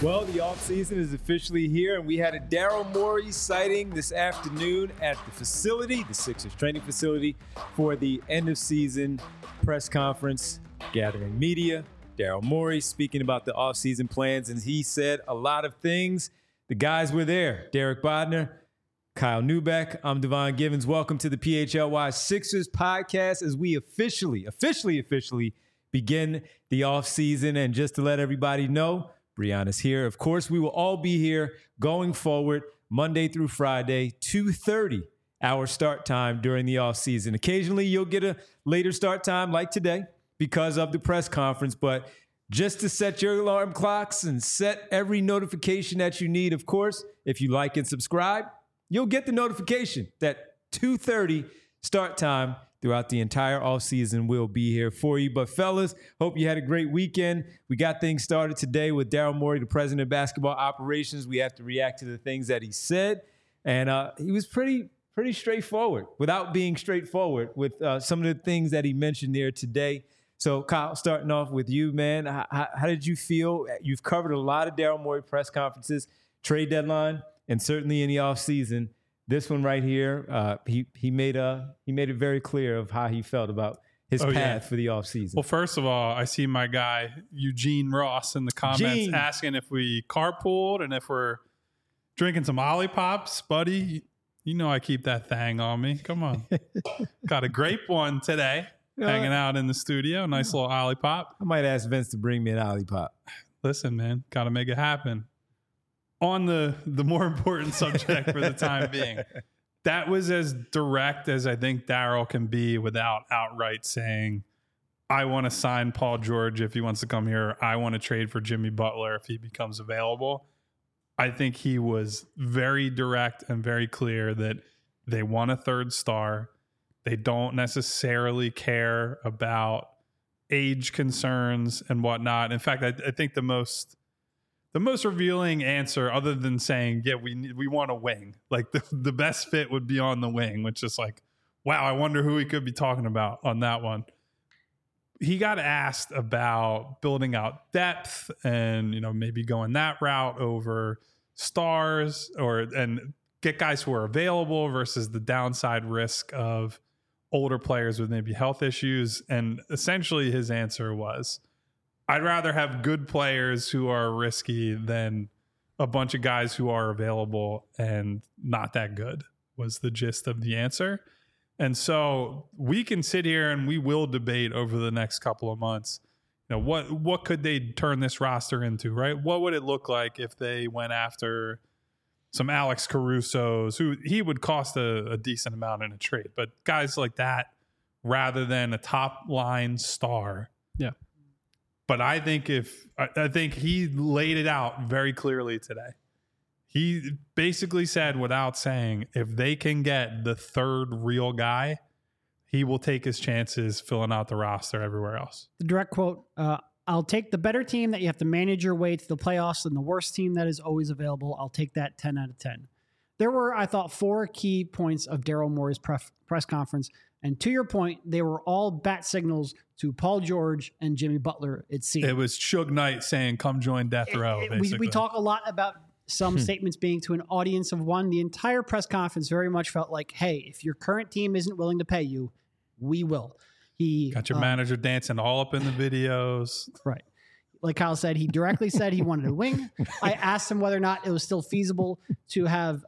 Well, the offseason is officially here, and we had a Daryl Morey sighting this afternoon at the facility, the Sixers training facility, for the end-of-season press conference, gathering media. Daryl Morey speaking about the offseason plans, and he said a lot of things. The guys were there. Derek Bodner, Kyle Neubeck. I'm Devon Givens. Welcome to the PHLY Sixers podcast as we officially begin the offseason. And just to let everybody know, Brianna's here. Of course, we will all be here going forward Monday through Friday, 2:30 our start time during the offseason. Occasionally, you'll get a later start time like today because of the press conference, but just to set your alarm clocks and set every notification that you need, of course, if you like and subscribe, you'll get the notification that 2:30 start time throughout the entire offseason will be here for you. But fellas, hope you had a great weekend. We got things started today with Daryl Morey, the president of basketball operations. We have to react to the things that he said. And he was pretty straightforward without being straightforward with some of the things that he mentioned there today. So Kyle, starting off with you, man, how did you feel? You've covered a lot of Daryl Morey press conferences, trade deadline, and certainly in the offseason. This one right here, he made it very clear of how he felt about his path for the offseason. Well, first of all, I see my guy Eugene Ross in the comments asking if we carpooled and if we're drinking some Ollipops, buddy. You know I keep that thing on me. Come on. Got a grape one today, hanging out in the studio. Nice little Ollipop. I might ask Vince to bring me an Ollipop. Listen, man, got to make it happen. On the more important subject for the time being, that was as direct as I think Daryl can be without outright saying, I want to sign Paul George if he wants to come here. I want to trade for Jimmy Butler if he becomes available. I think he was very direct and very clear that they want a third star. They don't necessarily care about age concerns and whatnot. In fact, I think the most revealing answer, other than saying, yeah, we want a wing, like the best fit would be on the wing, which is like, wow, I wonder who he could be talking about on that one. He got asked about building out depth and, maybe going that route over stars and get guys who are available versus the downside risk of older players with maybe health issues. And essentially his answer was, I'd rather have good players who are risky than a bunch of guys who are available and not that good, was the gist of the answer. And so we can sit here and we will debate over the next couple of months, what could they turn this roster into, right? What would it look like if they went after some Alex Caruso's, who he would cost a decent amount in a trade, but guys like that rather than a top line star. Yeah. But I think he laid it out very clearly today. He basically said, without saying, if they can get the third real guy, he will take his chances filling out the roster everywhere else. The direct quote, I'll take the better team that you have to manage your way to the playoffs than the worst team that is always available. I'll take that 10 out of 10. There were, I thought, 4 key points of Daryl Morey's press conference. And to your point, they were all bat signals to Paul George and Jimmy Butler, it seemed. It was Suge Knight saying, come join Death Row, basically. We talk a lot about some statements being to an audience of one. The entire press conference very much felt like, hey, if your current team isn't willing to pay you, we will. He got your manager dancing all up in the videos. Right. Like Kyle said, he directly said he wanted a wing. I asked him whether or not it was still feasible to have,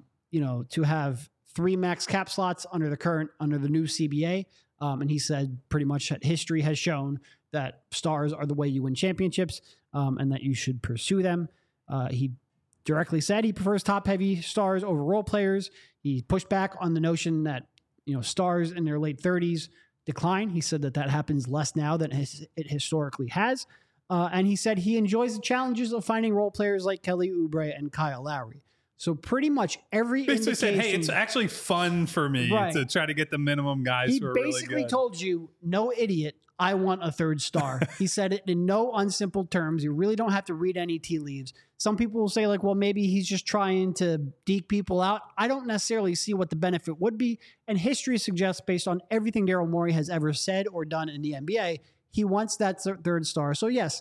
to have 3 max cap slots under the new CBA. And he said pretty much that history has shown that stars are the way you win championships, and that you should pursue them. He directly said he prefers top-heavy stars over role players. He pushed back on the notion that stars in their late 30s decline. He said that happens less now than it historically has. And he said he enjoys the challenges of finding role players like Kelly Oubre and Kyle Lowry. So pretty much every basically indication... said, hey, it's actually fun for me to try to get the minimum guys who are really good. He basically told you, no idiot, I want a third star. He said it in no unsimple terms. You really don't have to read any tea leaves. Some people will say, like, well, maybe he's just trying to deke people out. I don't necessarily see what the benefit would be. And history suggests, based on everything Daryl Morey has ever said or done in the NBA, he wants that third star. So, yes,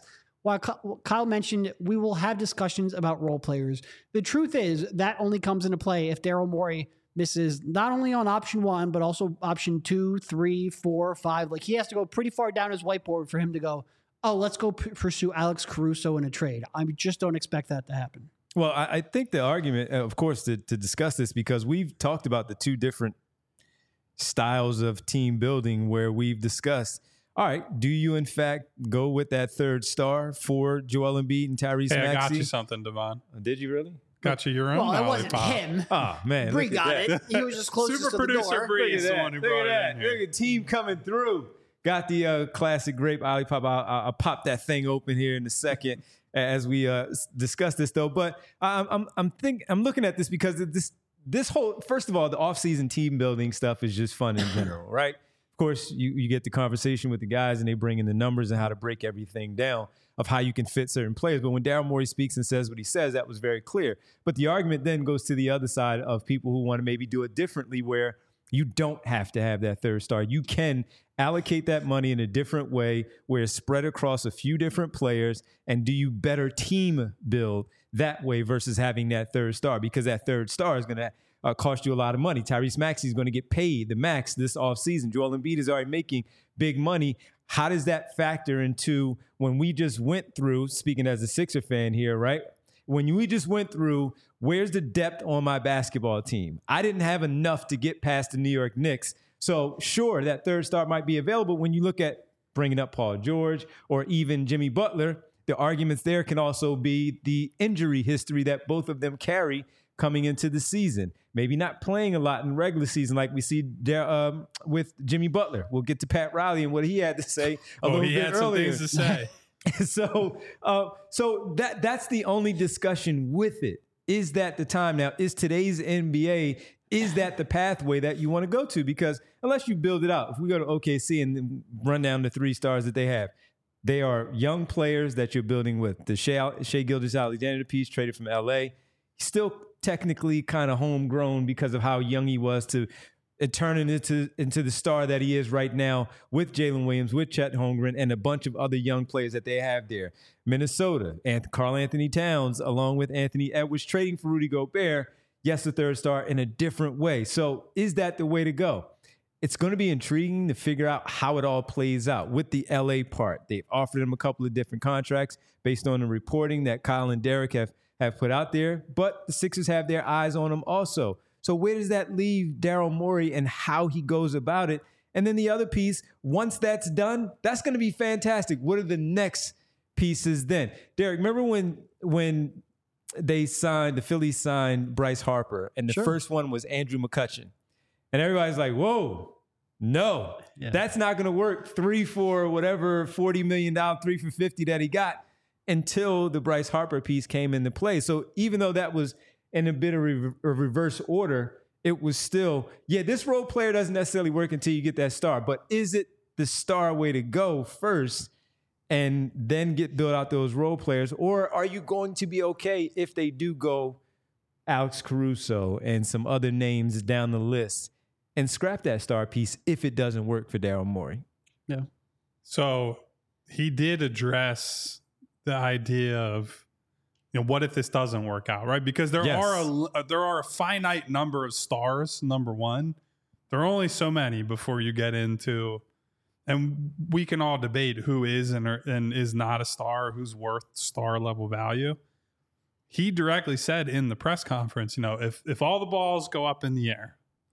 while Kyle mentioned we will have discussions about role players, the truth is that only comes into play if Daryl Morey misses not only on option 1, but also option 2, 3, 4, 5. Like he has to go pretty far down his whiteboard for him to go, oh, let's go pursue Alex Caruso in a trade. I just don't expect that to happen. Well, I think the argument, of course, to discuss this, because we've talked about the two different styles of team building where we've discussed, all right, do you in fact go with that third star for Joel Embiid and Tyrese Maxey? I got you something, Devon. Did you really? Got you your own Well, it lollipop. wasn't him. Oh, man. Bree got it. He was just closest Super to the producer door. Bree is the one who brought it in here. Look at team coming through. Got the classic grape lollipop. I'll pop that thing open here in a second as we discuss this, though. But I'm looking at this because this whole, first of all, the offseason team building stuff is just fun in general, right? Of course, you get the conversation with the guys and they bring in the numbers and how to break everything down of how you can fit certain players. But when Daryl Morey speaks and says what he says, that was very clear. But the argument then goes to the other side of people who want to maybe do it differently, where you don't have to have that third star. You can allocate that money in a different way where it's spread across a few different players and do you better team build that way versus having that third star, because that third star is going to cost you a lot of money. Tyrese Maxey is going to get paid the max this offseason. Joel Embiid is already making big money. How does that factor into when we just went through, speaking as a Sixer fan here, right? When we just went through, where's the depth on my basketball team? I didn't have enough to get past the New York Knicks. So sure, that third star might be available. When you look at bringing up Paul George or even Jimmy Butler, the arguments there can also be the injury history that both of them carry coming into the season. Maybe not playing a lot in regular season like we see there, with Jimmy Butler. We'll get to Pat Riley and what he had to say a little bit earlier. He had some things to say. So that's the only discussion with it. Is that the time now? Is today's NBA, is that the pathway that you want to go to? Because unless you build it out, if we go to OKC and then run down the 3 stars that they have, they are young players that you're building with. The Shai Gilgeous-Alexander piece traded from LA, still technically kind of homegrown because of how young he was to turn into the star that he is right now with Jalen Williams, with Chet Holmgren, and a bunch of other young players that they have there. Minnesota, and Karl Anthony Towns, along with Anthony Edwards, trading for Rudy Gobert. Yes, the third star in a different way. So is that the way to go? It's going to be intriguing to figure out how it all plays out with the LA part. They've offered him a couple of different contracts based on the reporting that Kyle and Derek have put out there, but the Sixers have their eyes on him also. So where does that leave Daryl Morey and how he goes about it? And then the other piece, once that's done, that's going to be fantastic. What are the next pieces then? Derek, remember when the Phillies signed Bryce Harper, and the first one was Andrew McCutchen. And everybody's like, whoa, no, that's not going to work. 3 for whatever, $40 million, 3 for 50 that he got, until the Bryce Harper piece came into play. So even though that was in a bit of reverse order, it was still, this role player doesn't necessarily work until you get that star. But is it the star way to go first and then build out those role players? Or are you going to be okay if they do go Alex Caruso and some other names down the list and scrap that star piece if it doesn't work for Daryl Morey? Yeah. So he did address the idea of, what if this doesn't work out, right? Because there are a finite number of stars, number one. There are only so many before you get into, and we can all debate who is and is not a star, who's worth star level value. He directly said in the press conference, if all the balls go up in the air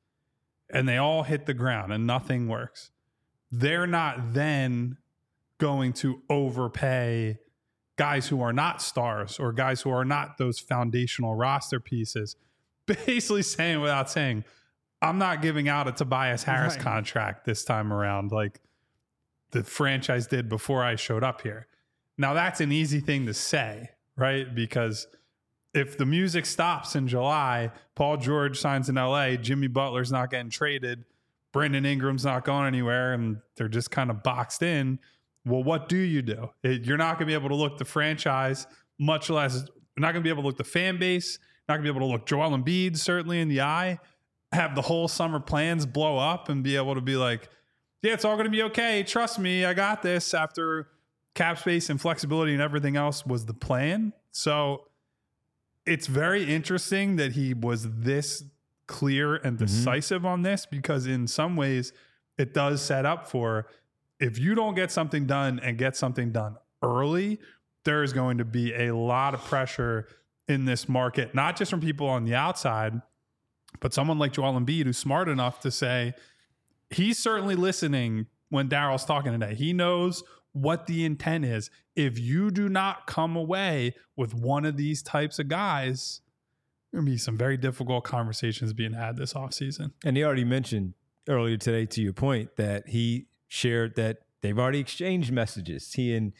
and they all hit the ground and nothing works, they're not then going to overpay guys who are not stars or guys who are not those foundational roster pieces. Basically saying, without saying, I'm not giving out a Tobias Harris contract this time around like the franchise did before I showed up here. Now that's an easy thing to say, right? Because if the music stops in July, Paul George signs in LA, Jimmy Butler's not getting traded, Brandon Ingram's not going anywhere, and they're just kind of boxed in. Well, what do? You're not going to be able to look the franchise, much less you're not going to be able to look the fan base, not going to be able to look Joel Embiid certainly in the eye, have the whole summer plans blow up and be able to be like, yeah, it's all going to be okay. Trust me, I got this, after cap space and flexibility and everything else was the plan. So it's very interesting that he was this clear and decisive on this, because in some ways it does set up for, if you don't get something done and get something done early, there is going to be a lot of pressure in this market, not just from people on the outside, but someone like Joel Embiid, who's smart enough to say he's certainly listening when Daryl's talking today. He knows what the intent is. If you do not come away with one of these types of guys, there will be some very difficult conversations being had this offseason. And he already mentioned earlier today, to your point, that he shared that they've already exchanged messages. He and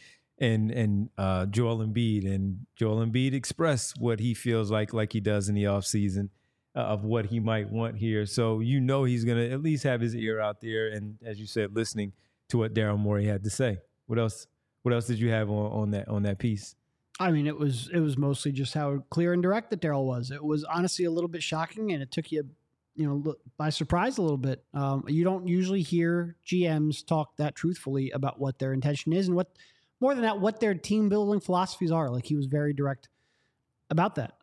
Joel Embiid, and Joel Embiid expressed what he feels like he does in the offseason of what he might want here. So he's going to at least have his ear out there, and as you said, listening to what Daryl Morey had to say. What else did you have on that piece? I mean, it was mostly just how clear and direct that Daryl was. It was honestly a little bit shocking, and it took you by surprise a little bit. You don't usually hear GMs talk that truthfully about what their intention is, and more than that, what their team building philosophies are. Like, he was very direct about that.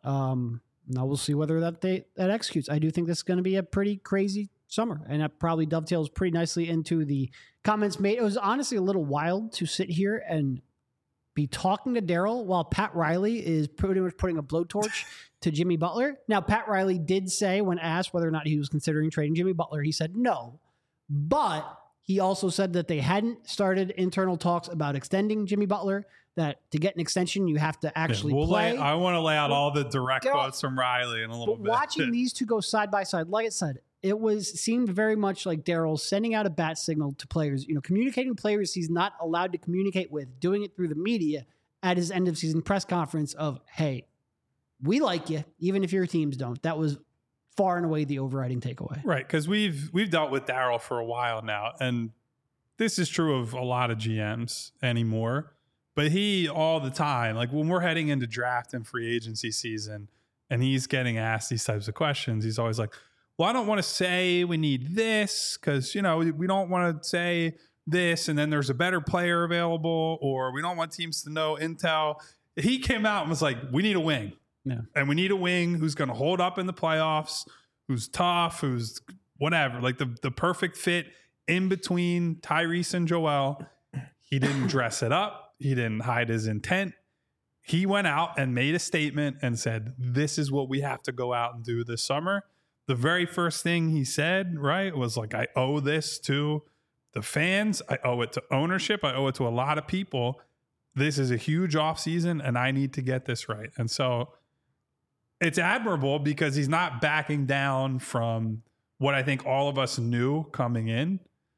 Now we'll see whether that executes. I do think this is going to be a pretty crazy summer, and that probably dovetails pretty nicely into the comments made. It was honestly a little wild to sit here and be talking to Daryl while Pat Riley is pretty much putting a blowtorch to Jimmy Butler. Now, Pat Riley did say, when asked whether or not he was considering trading Jimmy Butler, he said no, but he also said that they hadn't started internal talks about extending Jimmy Butler, that to get an extension, you have to actually play. I want to lay out all the direct quotes from Riley in a little bit. Watching these two go side by side, like I said, it seemed very much like Daryl sending out a bat signal to players, communicating players he's not allowed to communicate with, doing it through the media at his end of season press conference of, hey, we like you, even if your teams don't. That was far and away the overriding takeaway. Right, because we've dealt with Daryl for a while now, and this is true of a lot of GMs anymore. But he, all the time, like when we're heading into draft and free agency season, and he's getting asked these types of questions, he's always like, well, I don't want to say we need this because, we don't want to say this and then there's a better player available, or we don't want teams to know intel. He came out and was like, we need a wing. Yeah. And we need a wing who's going to hold up in the playoffs, who's tough, who's whatever, like the perfect fit in between Tyrese and Joel. He didn't dress it up. He didn't hide his intent. He went out and made a statement and said, this is what we have to go out and do this summer. The very first thing he said, right, was like, I owe this to the fans. I owe it to ownership. I owe it to a lot of people. This is a huge offseason, and I need to get this right. And so it's admirable because he's not backing down from what I think all of us knew coming in,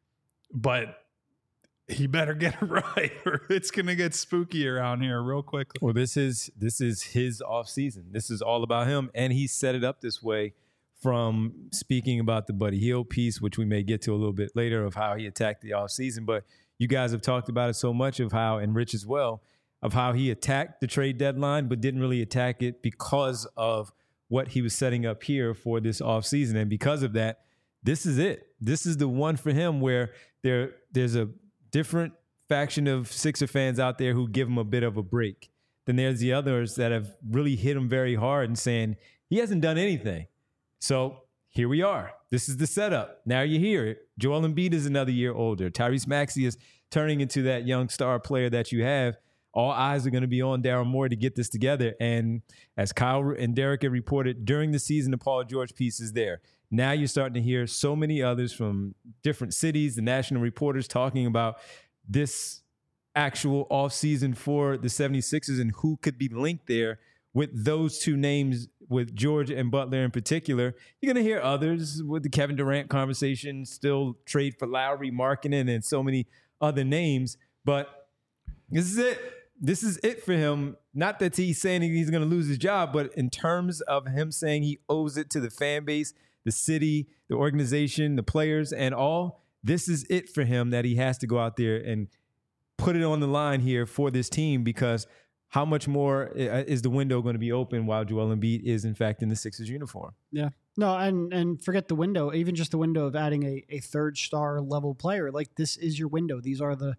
but he better get it right or it's going to get spooky around here real quickly. Well, this is his offseason. This is all about him, and he set it up this way from speaking about the Buddy Hield piece, which we may get to a little bit later, of how he attacked the offseason. But you guys have talked about it so much, of how, and Rich as well, of how he attacked the trade deadline but didn't really attack it because of what he was setting up here for this offseason. And because of that, this is it. This is the one for him where there's a different faction of Sixer fans out there who give him a bit of a break. Then there's the others that have really hit him very hard and saying he hasn't done anything. So here we are. This is the setup. Now you hear it. Joel Embiid is another year older. Tyrese Maxey is turning into that young star player that you have. All eyes are going to be on Daryl Morey to get this together. And as Kyle and Derek have reported, during the season, the Paul George piece is there. Now you're starting to hear so many others from different cities, the national reporters talking about this actual offseason for the 76ers and who could be linked there with those two names, with George and Butler in particular. You're going to hear others with the Kevin Durant conversation, still trade for Lowry, Markkanen, and so many other names. But this is it. This is it for him. Not that he's saying he's going to lose his job, but in terms of him saying he owes it to the fan base, the city, the organization, the players, and all, this is it for him, that he has to go out there and put it on the line here for this team, because how much more is the window going to be open while Joel Embiid is, in fact, in the Sixers uniform? Yeah. No, and forget the window, even just the window of adding a third star level player. Like, this is your window. These are the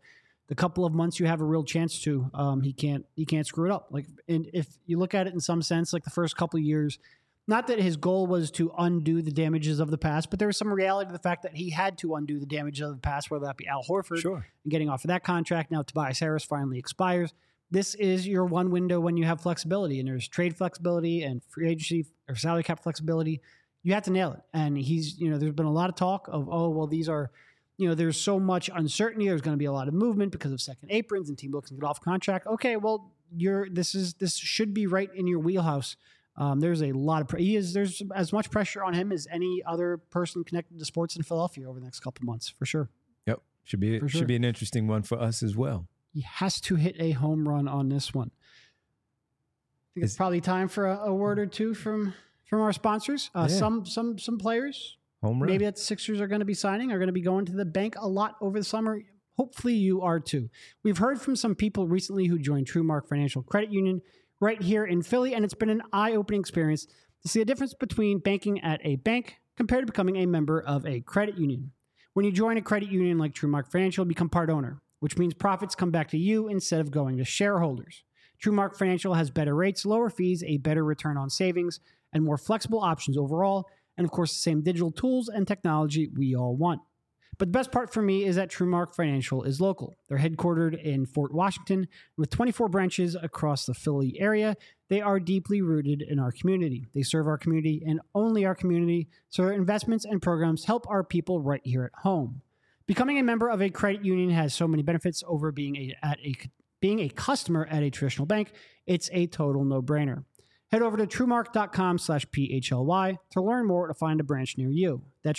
the couple of months you have a real chance to, he can't screw it up. Like, and if you look at it in some sense, like the first couple of years, not that his goal was to undo the damages of the past, but there was some reality to the fact that he had to undo the damages of the past, whether that be Al Horford and getting off of that contract. Now Tobias Harris finally expires. This is your one window when you have flexibility, and there's trade flexibility and free agency or salary cap flexibility. You have to nail it. And he's, there's been a lot of talk of, oh, well, these are, there's so much uncertainty. There's going to be a lot of movement because of second aprons and team looking to get off contract. Okay, well, this should be right in your wheelhouse. There's a lot of there's as much pressure on him as any other person connected to sports in Philadelphia over the next couple of months, for sure. Yep, should be an interesting one for us as well. He has to hit a home run on this one. I think it's probably time for a word or two from our sponsors. Some players, home run, maybe that the Sixers are going to be signing, are going to be going to the bank a lot over the summer. Hopefully you are too. We've heard from some people recently who joined TrueMark Financial Credit Union right here in Philly, and it's been an eye-opening experience to see the difference between banking at a bank compared to becoming a member of a credit union. When you join a credit union like TrueMark Financial, you become part owner, which means profits come back to you instead of going to shareholders. TrueMark Financial has better rates, lower fees, a better return on savings, and more flexible options overall, and of course the same digital tools and technology we all want. But the best part for me is that TrueMark Financial is local. They're headquartered in Fort Washington with 24 branches across the Philly area. They are deeply rooted in our community. They serve our community and only our community, so their investments and programs help our people right here at home. Becoming a member of a credit union has so many benefits over being a customer at a traditional bank. It's a total no-brainer. Head over to truemark.com/PHLY to learn more or to find a branch near you. That's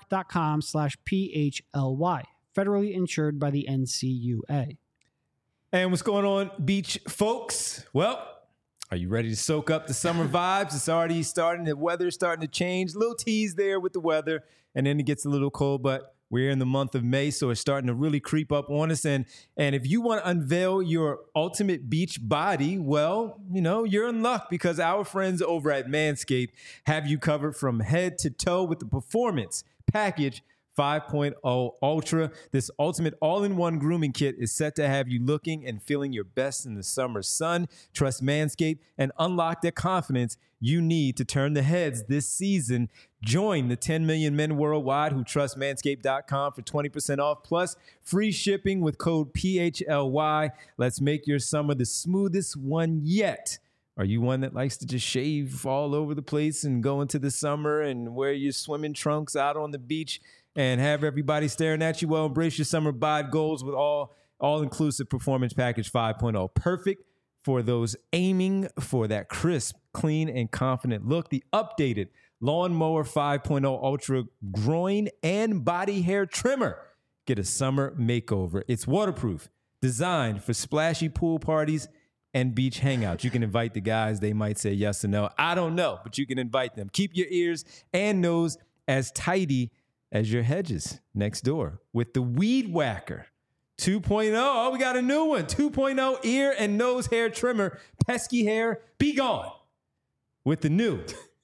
truemark.com/PHLY. Federally insured by the NCUA. And what's going on, beach folks? Well, are you ready to soak up the summer vibes? It's already starting. The weather's starting to change. A little tease there with the weather, and then it gets a little cold, but we're in the month of May, so it's starting to really creep up on us. And if you want to unveil your ultimate beach body, well, you're in luck because our friends over at Manscaped have you covered from head to toe with the Performance Package 5.0 Ultra. This ultimate all-in-one grooming kit is set to have you looking and feeling your best in the summer sun. Trust Manscaped and unlock the confidence you need to turn the heads this season. Join the 10 million men worldwide who trust Manscaped.com for 20% off plus free shipping with code PHLY. Let's make your summer the smoothest one yet. Are you one that likes to just shave all over the place and go into the summer and wear your swimming trunks out on the beach and have everybody staring at you? Well, embrace your summer bod goals with all-inclusive Performance Package 5.0. Perfect for those aiming for that crisp, clean, and confident look. The updated Lawnmower 5.0 Ultra groin and body hair trimmer. Get a summer makeover. It's waterproof, designed for splashy pool parties and beach hangouts. You can invite the guys. They might say yes or no. I don't know, but you can invite them. Keep your ears and nose as tidy as your hedges next door with the Weed Whacker 2.0. Oh, we got a new one. 2.0 ear and nose hair trimmer. Pesky hair, be gone. With the new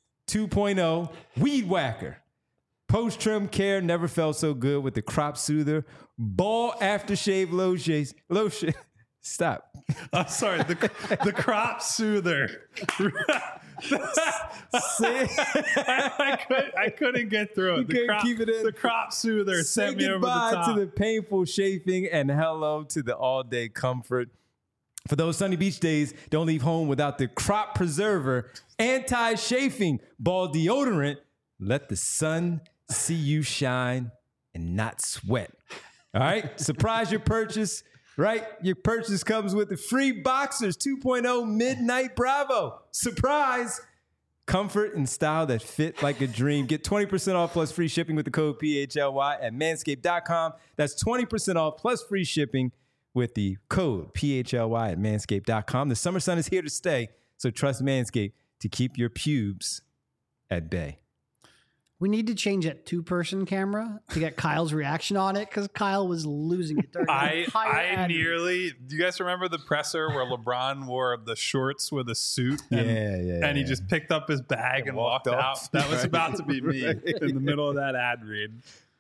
2.0 Weed Whacker. Post-trim care never felt so good with the Crop Soother Ball Aftershave Lotion. Stop. I'm sorry. The Crop Soother. I couldn't get through it. Keep it in. The Crop Soother sent me over the top. Say goodbye to the painful chafing and hello to the all-day comfort. For those sunny beach days, don't leave home without the Crop Preserver anti-chafing ball deodorant. Let the sun see you shine and not sweat. All right? Surprise your purchase. Right? Your purchase comes with the free Boxers 2.0 Midnight Bravo. Surprise! Comfort and style that fit like a dream. Get 20% off plus free shipping with the code PHLY at manscaped.com. That's 20% off plus free shipping with the code PHLY at manscaped.com. The summer sun is here to stay, so trust Manscaped to keep your pubes at bay. We need to change that two-person camera to get Kyle's reaction on it because Kyle was losing it during the entire ad. Do you guys remember the presser where LeBron wore the shorts with a suit? And he just picked up his bag and walked out? That was about to be me in the middle of that ad read.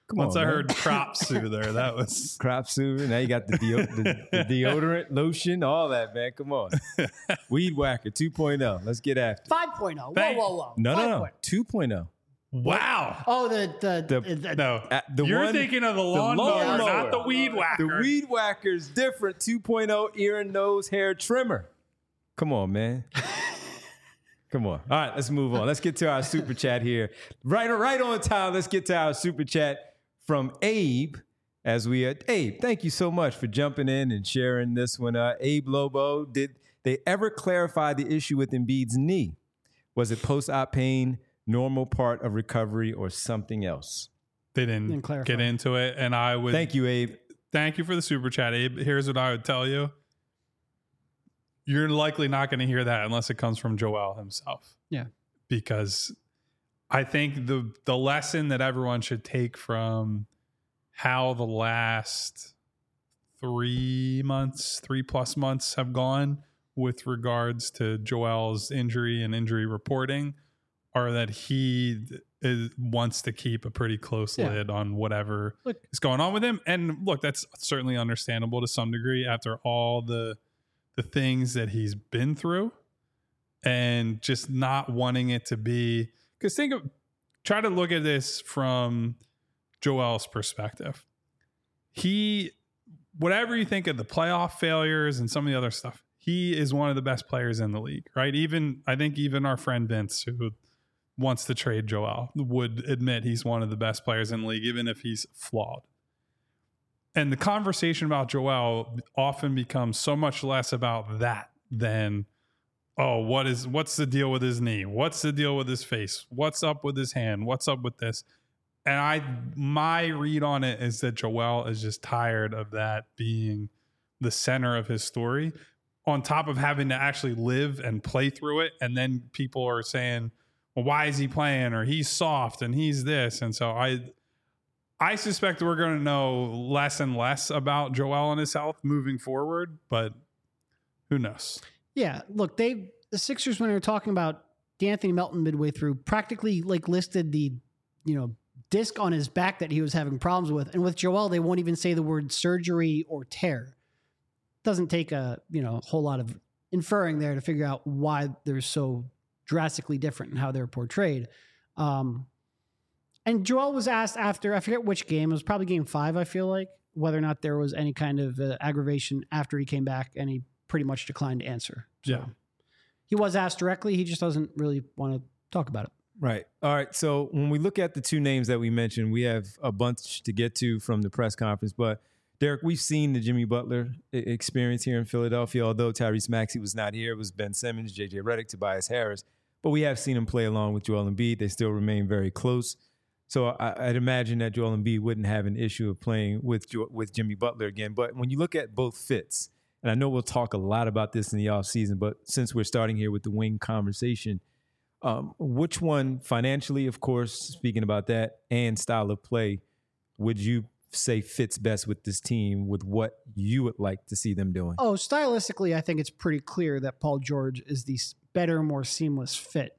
Once on, I man. heard crop soother, that was Crop soother. Now you got the deodorant, lotion, all that, man. Come on. Weed Whacker 2.0. Let's get after it. 5.0. Whoa, Thank- whoa, whoa. No, 5.0. 2.0. wow. Oh, No, The you're one- thinking of the lawnmower, lawnmower. not the weed whacker. The Weed Whacker's different 2.0 ear and nose hair trimmer. Come on, man. Come on. All right, let's move on. Let's get to our super chat here. Right on time. Let's get to our super chat from Abe. Abe, thank you so much for jumping in and sharing this one. Abe Lobo, did they ever clarify the issue with Embiid's knee? Was it post-op pain, normal part of recovery, or something else? They Didn't didn't clarify. get into it, and I would Thank you, Abe. thank you for the super chat, Abe. Here's what I would tell you. You're likely not going to hear that unless it comes from Joel himself. Yeah. Because I think the lesson that everyone should take from how the last 3 plus months have gone with regards to Joel's injury and injury reporting are that he wants to keep a pretty close lid on whatever is going on with him. And look, that's certainly understandable to some degree after all the things that he's been through and just not wanting it to be, because try to look at this from Joel's perspective. Whatever you think of the playoff failures and some of the other stuff, he is one of the best players in the league, right? I think even our friend Vince, who wants to trade Joel, would admit he's one of the best players in the league, even if he's flawed. And the conversation about Joel often becomes so much less about that than, oh, what's the deal with his knee? What's the deal with his face? What's up with his hand? What's up with this? And my read on it is that Joel is just tired of that being the center of his story, on top of having to actually live and play through it. And then people are saying, well, why is he playing? Or he's soft and he's this. And so I suspect we're going to know less and less about Joel and his health moving forward, but who knows? Yeah, look, the Sixers, when they were talking about D'Anthony Melton midway through, practically listed the, disc on his back that he was having problems with. And with Joel, they won't even say the word surgery or tear. Doesn't take a whole lot of inferring there to figure out why they're so drastically different in how they're portrayed. And Joel was asked after, I forget which game, it was probably game 5, I feel like, whether or not there was any kind of aggravation after he came back, and he pretty much declined to answer. So Yeah. He was asked directly. He just doesn't really want to talk about it. Right. All right. So when we look at the two names that we mentioned, we have a bunch to get to from the press conference. But Derek, we've seen the Jimmy Butler experience here in Philadelphia. Although Tyrese Maxey was not here, it was Ben Simmons, JJ Redick, Tobias Harris. But we have seen him play along with Joel Embiid. They still remain very close. So I'd imagine that Joel Embiid wouldn't have an issue of playing with Jimmy Butler again. But when you look at both fits, and I know we'll talk a lot about this in the offseason, but since we're starting here with the wing conversation, which one financially, of course, speaking about that, and style of play, would you say fits best with this team with what you would like to see them doing? Oh, stylistically, I think it's pretty clear that Paul George is the better, more seamless fit.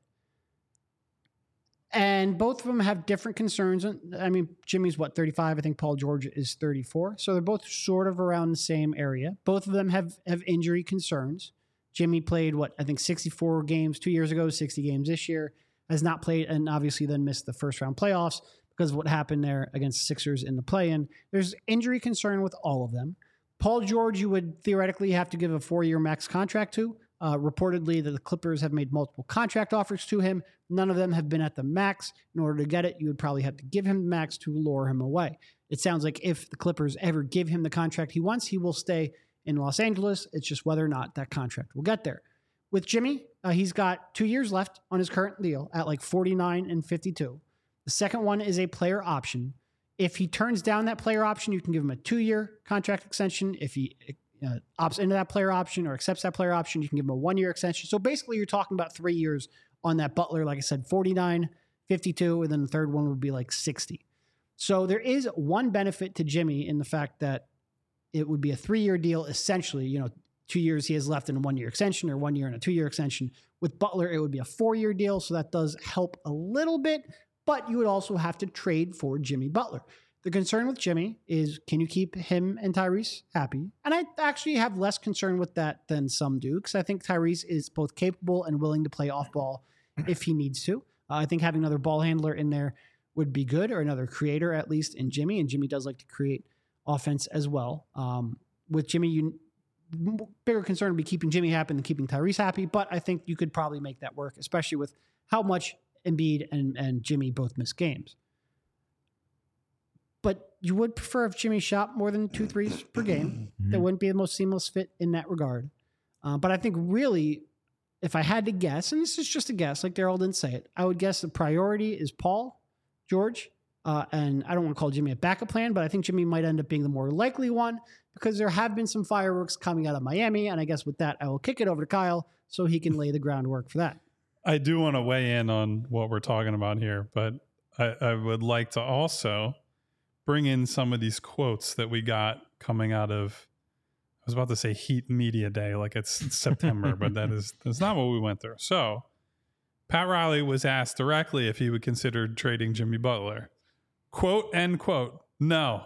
And both of them have different concerns. I mean, Jimmy's 35? I think Paul George is 34. So they're both sort of around the same area. Both of them have injury concerns. Jimmy played, 64 games 2 years ago, 60 games this year. Has not played, and obviously then missed the first round playoffs because of what happened there against the Sixers in the play-in. There's injury concern with all of them. Paul George, you would theoretically have to give a 4-year max contract to. Reportedly, that the Clippers have made multiple contract offers to him. None of them have been at the max. In order to get it, you would probably have to give him the max to lure him away. It sounds like if the Clippers ever give him the contract he wants, he will stay in Los Angeles. It's just whether or not that contract will get there. With Jimmy, he's got 2 years left on his current deal at 49 and 52. The second one is a player option. If he turns down that player option, you can give him a 2-year contract extension. If he opts into that player option or accepts that player option, you can give him a 1-year extension. So basically, you're talking about 3 years on that Butler. Like I said, 49, 52, and then the third one would be 60. So there is one benefit to Jimmy in the fact that it would be a 3-year deal, essentially. 2 years he has left in a 1-year extension, or 1 year and a 2-year extension. With Butler, it would be a 4-year deal. So that does help a little bit, but you would also have to trade for Jimmy Butler. The concern with Jimmy is, can you keep him and Tyrese happy? And I actually have less concern with that than some do, because I think Tyrese is both capable and willing to play off ball if he needs to. I think having another ball handler in there would be good, or another creator at least in Jimmy. And Jimmy does like to create offense as well. With Jimmy, bigger concern would be keeping Jimmy happy than keeping Tyrese happy. But I think you could probably make that work, especially with how much Embiid and Jimmy both miss games. But you would prefer if Jimmy shot more than 2 threes per game. That wouldn't be the most seamless fit in that regard. But I think really, if I had to guess, and this is just a guess, like Daryl didn't say it, I would guess the priority is Paul George. And I don't want to call Jimmy a backup plan, but I think Jimmy might end up being the more likely one, because there have been some fireworks coming out of Miami. And I guess with that, I will kick it over to Kyle so he can lay the groundwork for that. I do want to weigh in on what we're talking about here, but I would like to also bring in some of these quotes that we got coming out of, I was about to say Heat Media Day, like it's September, but that's not what we went through. So Pat Riley was asked directly if he would consider trading Jimmy Butler. Quote, end quote, no.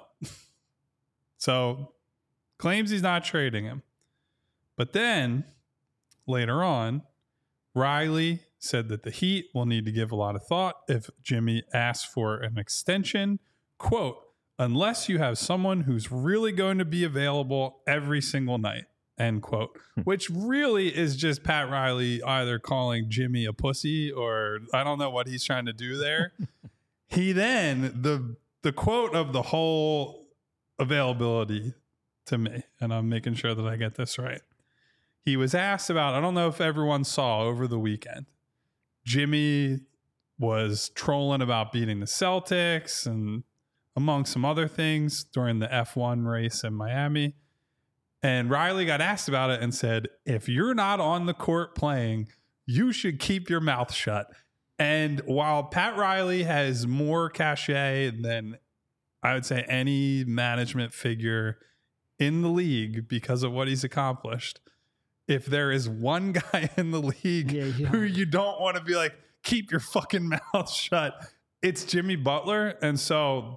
So claims he's not trading him. But then later on, Riley said that the Heat will need to give a lot of thought if Jimmy asks for an extension. Quote, unless you have someone who's really going to be available every single night, end quote, which really is just Pat Riley either calling Jimmy a pussy, or I don't know what he's trying to do there. He then, the quote of the whole availability to me, and I'm making sure that I get this right. He was asked about, I don't know if everyone saw over the weekend, Jimmy was trolling about beating the Celtics and among some other things during the F1 race in Miami. And Riley got asked about it and said, if you're not on the court playing, you should keep your mouth shut. And while Pat Riley has more cachet than I would say any management figure in the league because of what he's accomplished, if there is one guy in the league who you don't want to be like, keep your fucking mouth shut, it's Jimmy Butler. And so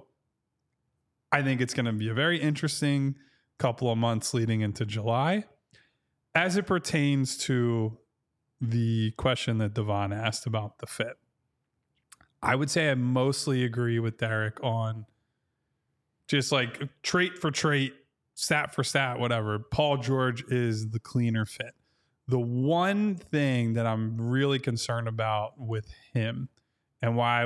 I think it's going to be a very interesting couple of months leading into July. As it pertains to the question that Devon asked about the fit, I would say I mostly agree with Derek on just like trait for trait, stat for stat, whatever. Paul George is the cleaner fit. The one thing that I'm really concerned about with him, and why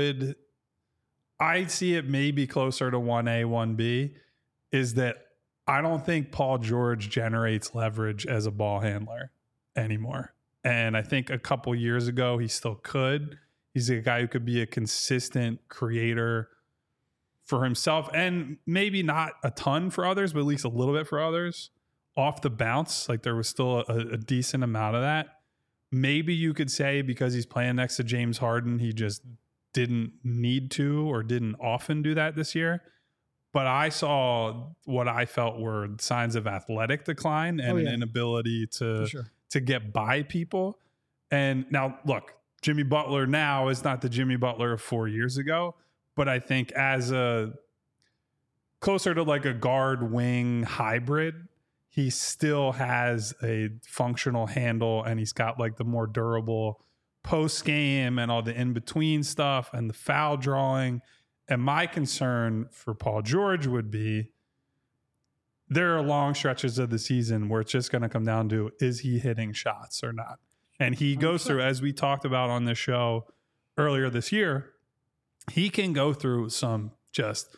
I see it maybe closer to 1A, 1B, is that I don't think Paul George generates leverage as a ball handler anymore. And I think a couple years ago, he still could. He's a guy who could be a consistent creator for himself, and maybe not a ton for others, but at least a little bit for others. Off the bounce, like there was still a decent amount of that. Maybe you could say because he's playing next to James Harden, he just didn't need to or didn't often do that this year. But I saw what I felt were signs of athletic decline and an inability to get by people. And now, look, Jimmy Butler now is not the Jimmy Butler of 4 years ago, but I think as a closer to like a guard wing hybrid, he still has a functional handle, and he's got like the more durable post game and all the in between stuff and the foul drawing. And my concern for Paul George would be there are long stretches of the season where it's just going to come down to, is he hitting shots or not? And he goes through, as we talked about on this show earlier this year, he can go through some just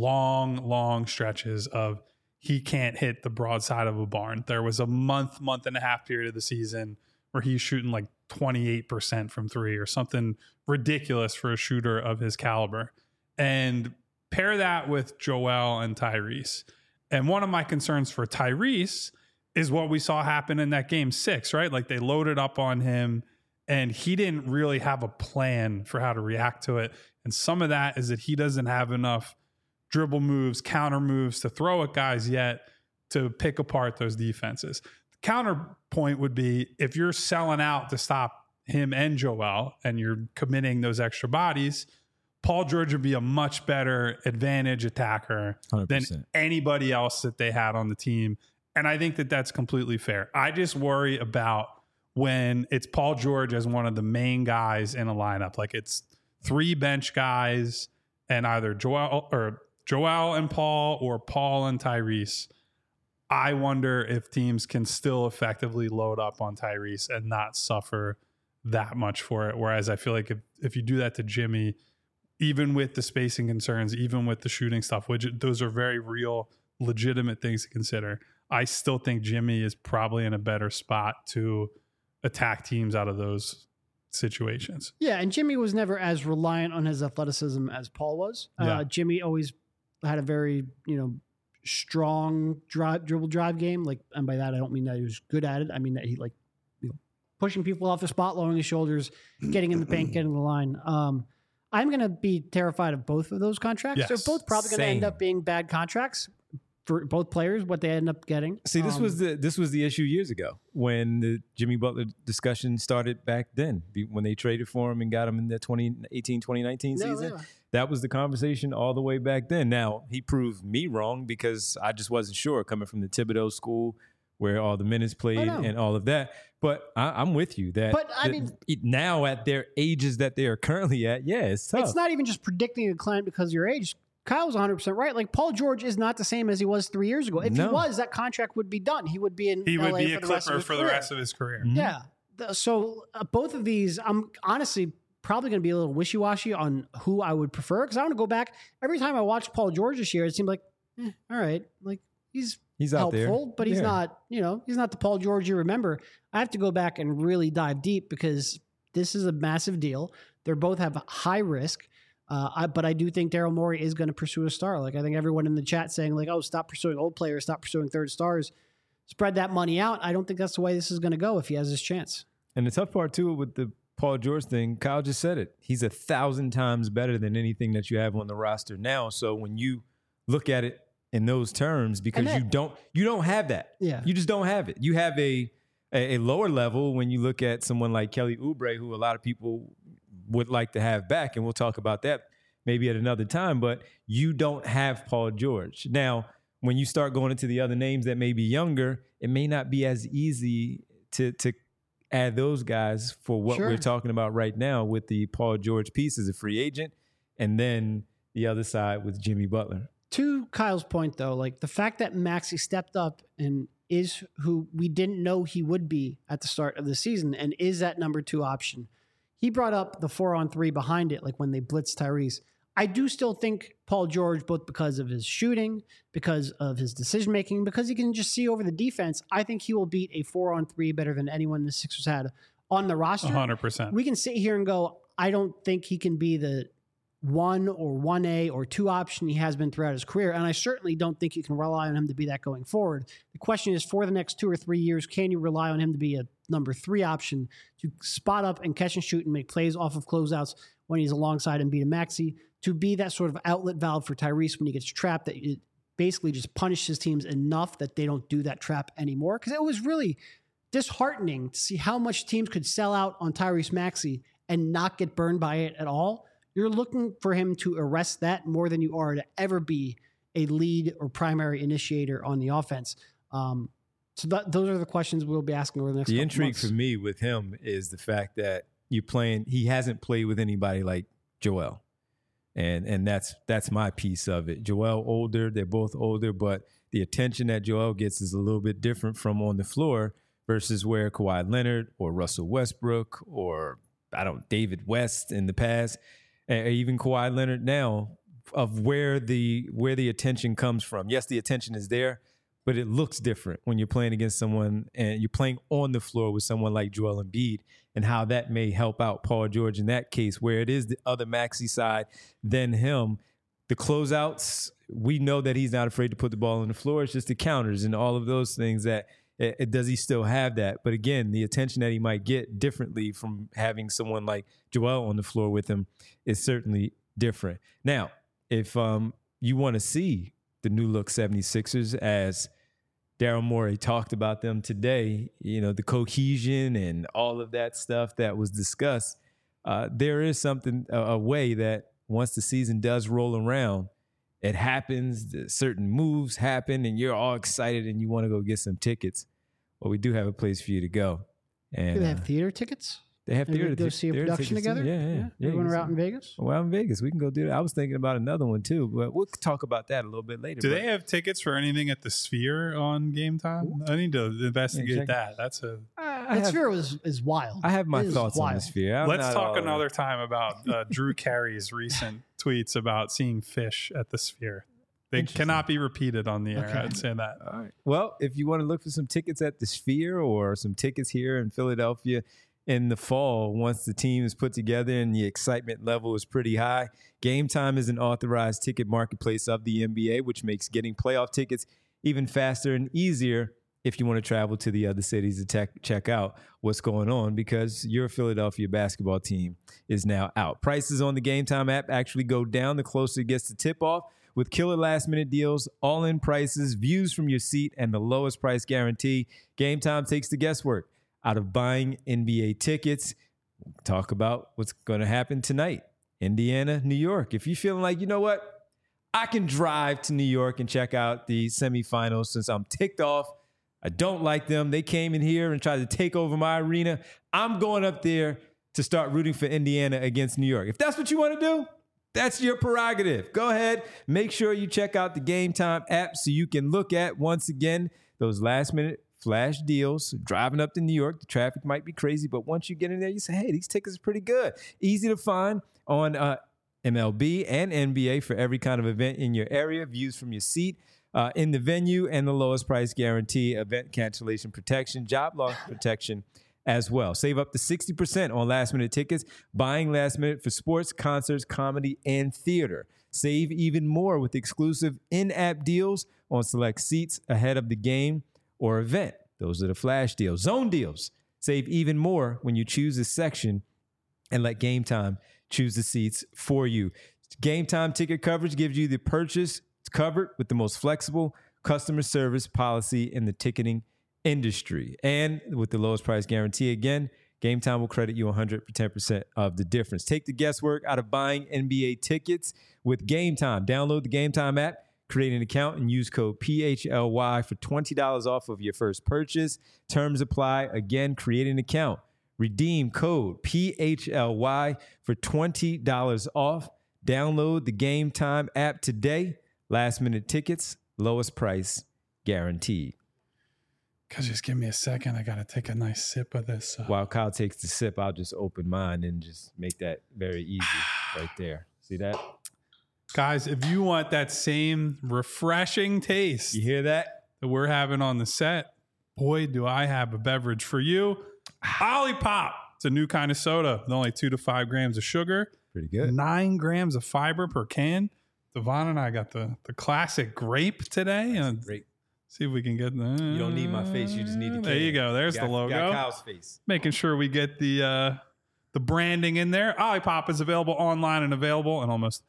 long stretches of he can't hit the broadside of a barn. There was a month and a half period of the season where he's shooting like 28% from three or something ridiculous for a shooter of his caliber. And pair that with Joel and Tyrese. And one of my concerns for Tyrese is what we saw happen in that game 6, right? Like they loaded up on him and he didn't really have a plan for how to react to it. And some of that is that he doesn't have enough dribble moves, counter moves to throw at guys yet to pick apart those defenses. The counterpoint would be if you're selling out to stop him and Joel and you're committing those extra bodies, Paul George would be a much better advantage attacker 100%. than anybody else that they had on the team. And I think that that's completely fair. I just worry about when it's Paul George as one of the main guys in a lineup. Like it's 3 bench guys and either Joel and Paul or Paul and Tyrese. I wonder if teams can still effectively load up on Tyrese and not suffer that much for it. Whereas I feel like if you do that to Jimmy, even with the spacing concerns, even with the shooting stuff, which those are very real, legitimate things to consider, I still think Jimmy is probably in a better spot to attack teams out of those situations. Yeah, and Jimmy was never as reliant on his athleticism as Paul was. Yeah. Jimmy always had a very, strong dribble drive game. Like, and by that I don't mean that he was good at it. I mean that he pushing people off the spot, lowering his shoulders, getting in the paint, getting in the line. I'm going to be terrified of both of those contracts. Yes, They're both probably going to end up being bad contracts for both players, what they end up getting. See, this was the issue years ago when the Jimmy Butler discussion started back then, when they traded for him and got him in the 2018-2019 season. Yeah. That was the conversation all the way back then. Now, he proved me wrong because I just wasn't sure coming from the Thibodeau school where all the minutes played and all of that. But I'm with you that now at their ages that they are currently at, it's tough. It's not even just predicting a client because of your age. Kyle's 100% right. Like, Paul George is not the same as he was 3 years ago. If he was, that contract would be done. He would be in He LA would be for a the rest of Clipper his for the career. rest of his career. Mm-hmm. Yeah. So both of these, I'm honestly probably going to be a little wishy-washy on who I would prefer, because I want to go back. Every time I watched Paul George this year, it seemed like, all right, like he's out helpful, there, but he's not, he's not the Paul George you remember. I have to go back and really dive deep because this is a massive deal. They both have high risk. But I do think Daryl Morey is going to pursue a star. Like, I think everyone in the chat saying like, oh, stop pursuing old players, stop pursuing third stars, spread that money out. I don't think that's the way this is going to go if he has his chance. And the tough part too with the Paul George thing, Kyle just said it. He's 1,000 times better than anything that you have on the roster now. So when you look at it in those terms, because you don't have that. Yeah. You just don't have it. You have a lower level when you look at someone like Kelly Oubre, who a lot of people would like to have back, and we'll talk about that maybe at another time, but you don't have Paul George. Now, when you start going into the other names that may be younger, it may not be as easy to add those guys for what we're talking about right now with the Paul George piece as a free agent, and then the other side with Jimmy Butler. To Kyle's point, though, like the fact that Maxey stepped up and is who we didn't know he would be at the start of the season and is that number 2 option. He brought up the 4-on-3 behind it, like when they blitzed Tyrese. I do still think Paul George, both because of his shooting, because of his decision-making, because he can just see over the defense, I think he will beat a 4-on-3 better than anyone the Sixers had on the roster. 100%. We can sit here and go, I don't think he can be the 1 or 1A or 2 option he has been throughout his career. And I certainly don't think you can rely on him to be that going forward. The question is, for the next 2 or 3 years, can you rely on him to be a number 3 option to spot up and catch and shoot and make plays off of closeouts when he's alongside Embiid and Maxey, to be that sort of outlet valve for Tyrese when he gets trapped, that it basically just punishes teams enough that they don't do that trap anymore? Because it was really disheartening to see how much teams could sell out on Tyrese Maxey and not get burned by it at all. You're looking for him to arrest that more than you are to ever be a lead or primary initiator on the offense. So those are the questions we'll be asking over the next couple months. The intrigue for me with him is the fact that he hasn't played with anybody like Joel. And that's my piece of it. Joel older, they're both older, but the attention that Joel gets is a little bit different from on the floor versus where Kawhi Leonard or Russell Westbrook or David West in the past, and even Kawhi Leonard now, of where the attention comes from. Yes, the attention is there, but it looks different when you're playing against someone and you're playing on the floor with someone like Joel Embiid, and how that may help out Paul George in that case, where it is the other Maxey side than him. The closeouts, we know that he's not afraid to put the ball on the floor. It's just the counters and all of those things that does he still have that? But again, the attention that he might get differently from having someone like Joel on the floor with him is certainly different. Now, if you want to see the new look 76ers, as Daryl Morey talked about them today, the cohesion and all of that stuff that was discussed, there is something, a way that once the season does roll around, it happens, certain moves happen, and you're all excited and you want to go get some tickets. Well, we do have a place for you to go. And Do they have theater tickets? they have Maybe theater we go tickets. see a Theater production tickets too. together? Yeah. Everyone are out in Vegas? Well, out in Vegas, we can go do that. I was thinking about another one too, but we'll talk about that a little bit later. Do But they have tickets for anything at the Sphere on game time? I need to investigate check it. that. That's a. That Sphere is wild. I have my It is thoughts on wild. the Sphere. I'm Let's not talk all- another time about Drew Carey's recent tweets about seeing fish at the Sphere. They Interesting. cannot be repeated on the air. Okay. I'd say that. All right. Well, if you want to look for some tickets at the Sphere or some tickets here in Philadelphia in the fall, once the team is put together and the excitement level is pretty high, Game Time is an authorized ticket marketplace of the NBA, which makes getting playoff tickets even faster and easier if you want to travel to the other cities to check out what's going on, because your Philadelphia basketball team is now out. Prices on the Game Time app actually go down the closer it gets to tip-off, with killer last-minute deals, all-in prices, views from your seat, and the lowest price guarantee. Game Time takes the guesswork out of buying NBA tickets. We'll talk about what's going to happen tonight. Indiana, New York. If you're feeling like, you know what, I can drive to New York and check out the semifinals since I'm ticked off, I don't like them, they came in here and tried to take over my arena, I'm going up there to start rooting for Indiana against New York. If that's what you want to do, that's your prerogative. Go ahead. Make sure you check out the Game Time app so you can look at, once again, those last-minute flash deals. Driving up to New York, the traffic might be crazy, but once you get in there, you say, hey, these tickets are pretty good. Easy to find on MLB and NBA for every kind of event in your area. Views from your seat in the venue, and the lowest price guarantee, event cancellation protection, job loss protection as well. Save up to 60% on last-minute tickets, buying last minute for sports, concerts, comedy, and theater. Save even more with exclusive in-app deals on select seats ahead of the game or event. Those are the flash deals. Zone deals. Save even more when you choose a section and let Game Time choose the seats for you. Game Time ticket coverage gives you the purchase covered with the most flexible customer service policy in the ticketing industry. And with the lowest price guarantee, again, Game Time will credit you 110% of the difference. Take the guesswork out of buying NBA tickets with Game Time. Download the Game Time app, create an account, and use code PHLY for $20 off of your first purchase. Terms apply. Again, create an account. Redeem code PHLY for $20 off. Download the Game Time app today. Last minute tickets, lowest price guaranteed. Guys, just give me a second. I got to take a nice sip of this. While Kyle takes the sip, I'll just open mine and just make that very easy right there. See that? Guys, if you want that same refreshing taste You hear that? that we're having on the set, boy, do I have a beverage for you. Olipop. It's a new kind of soda with only 2 to 5 grams of sugar, Pretty good. 9 grams of fiber per can. Devon and I got the classic grape today. And Great. see if we can get the. You don't need my face. You just need the There you can. go. There's Got- the logo. Got Kyle's face. Making sure we get the branding in there. Olipop is available online and available in almost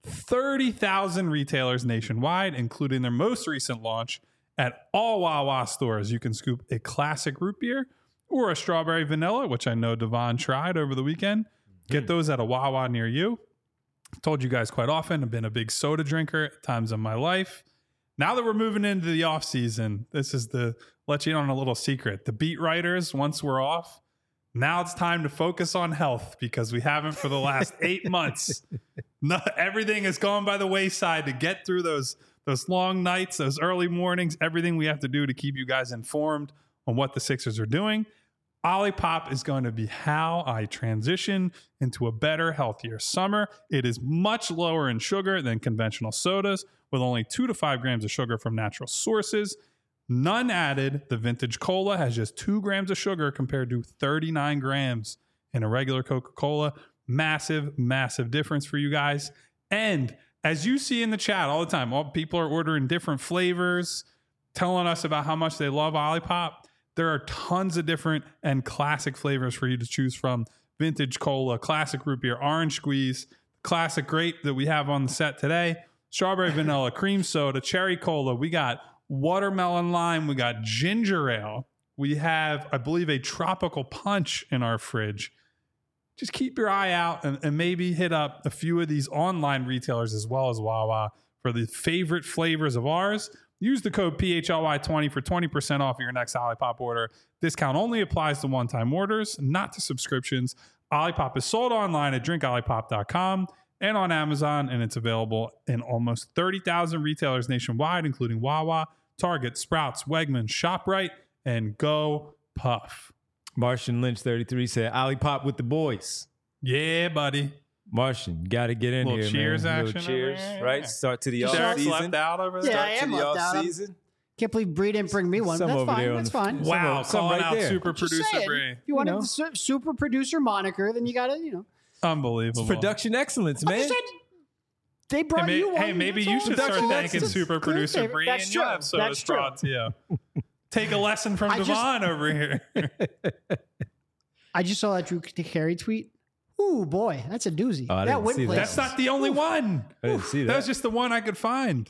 30,000 retailers nationwide, including their most recent launch at all Wawa stores. You can scoop a classic root beer or a strawberry vanilla, which I know Devon tried over the weekend. Get those at a Wawa near you. I've told you guys quite often, I've been a big soda drinker at times in my life. Now that we're moving into the off season, this is the let you in on a little secret. The beat writers, once we're off, now it's time to focus on health because we haven't for the last 8 months. No, everything has gone by the wayside to get through those long nights, those early mornings, everything we have to do to keep you guys informed on what the Sixers are doing. Olipop is going to be how I transition into a better, healthier summer. It is much lower in sugar than conventional sodas, with only 2 to 5 grams of sugar from natural sources. None added. The vintage cola has just 2 grams of sugar compared to 39 grams in a regular Coca-Cola. Massive, massive difference for you guys. And as you see in the chat all the time, all people are ordering different flavors, telling us about how much they love Olipop. There are tons of different and classic flavors for you to choose from. Vintage cola, classic root beer, orange squeeze, classic grape that we have on the set today, strawberry vanilla, cream soda, cherry cola. We got watermelon lime. We got ginger ale. We have, I believe, a tropical punch in our fridge. just keep your eye out and maybe hit up a few of these online retailers as well as Wawa for the favorite flavors of ours. Use the code PHLY20 for 20% off your next Olipop order. Discount only applies to one-time orders, not to subscriptions. Olipop is sold online at drinkolipop.com and on Amazon, and it's available in almost 30,000 retailers nationwide, including Wawa, Target, Sprouts, Wegmans, ShopRite, and Go Puff. Martian Lynch 33 said, Olipop with the boys. Yeah, buddy. Martian, got to get in Little here, cheers man. action Little cheers, over here. right? Start to the off Derek's season. left out over there. Yeah, I Start am to the left out. off season. Can't believe Bree didn't bring me one. Some That's over there fine. on That's the- fine. Wow, Some calling right out there. super Just producer saying, Bree. if you wanted know. the super producer moniker, then you got to, Unbelievable. Production excellence, Like I man. said, they brought you one. Hey, maybe you That's should all. start Production thanking excellence. super Clear producer favorite. Bree That's and true. you have so That's it's brought to you. Take a lesson from I just- Devon over here. I just saw that Drew Carey tweet. Ooh, boy, that's a doozy. Oh, I that didn't win see that. place. That's not the only one. I didn't see That that. was just the one I could find.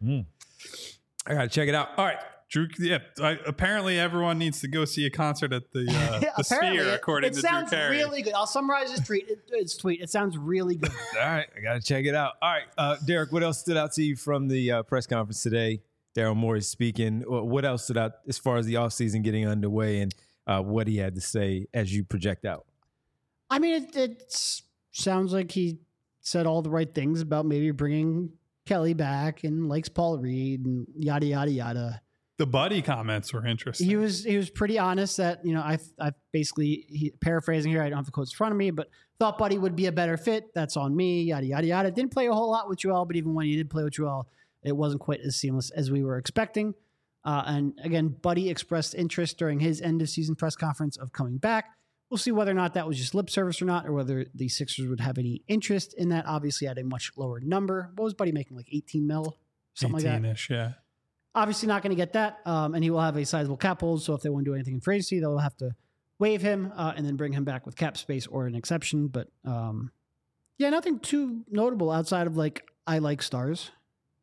I got to check it out. All right. Drew, apparently everyone needs to go see a concert at the Apparently, Sphere, according it to Drew sounds Carey. really good. I'll summarize his tweet. It sounds really good. All right, I got to check it out. All right, Derek, what else stood out to you from the press conference today? Daryl Morey speaking. What else stood out as far as the offseason getting underway and what he had to say as you project out? I mean, it sounds like he said all the right things about maybe bringing Kelly back and likes Paul Reed and yada yada yada. The buddy comments were interesting. He was pretty honest that I basically paraphrasing here. I don't have the quotes in front of me, but thought Buddy would be a better fit. That's on me. Yada yada yada. Didn't play a whole lot with Joel, but even when he did play with Joel, it wasn't quite as seamless as we were expecting. And again, Buddy expressed interest during his end of season press conference of coming back. We'll see whether or not that was just lip service or not, or whether the Sixers would have any interest in that. Obviously, at a much lower number. What was Buddy making? Like 18 mil, something like that. 18-ish, yeah. Obviously not going to get that, and he will have a sizable cap hold. So if they want to do anything in free agency, they'll have to waive him and then bring him back with cap space or an exception. But yeah, nothing too notable outside of I like stars.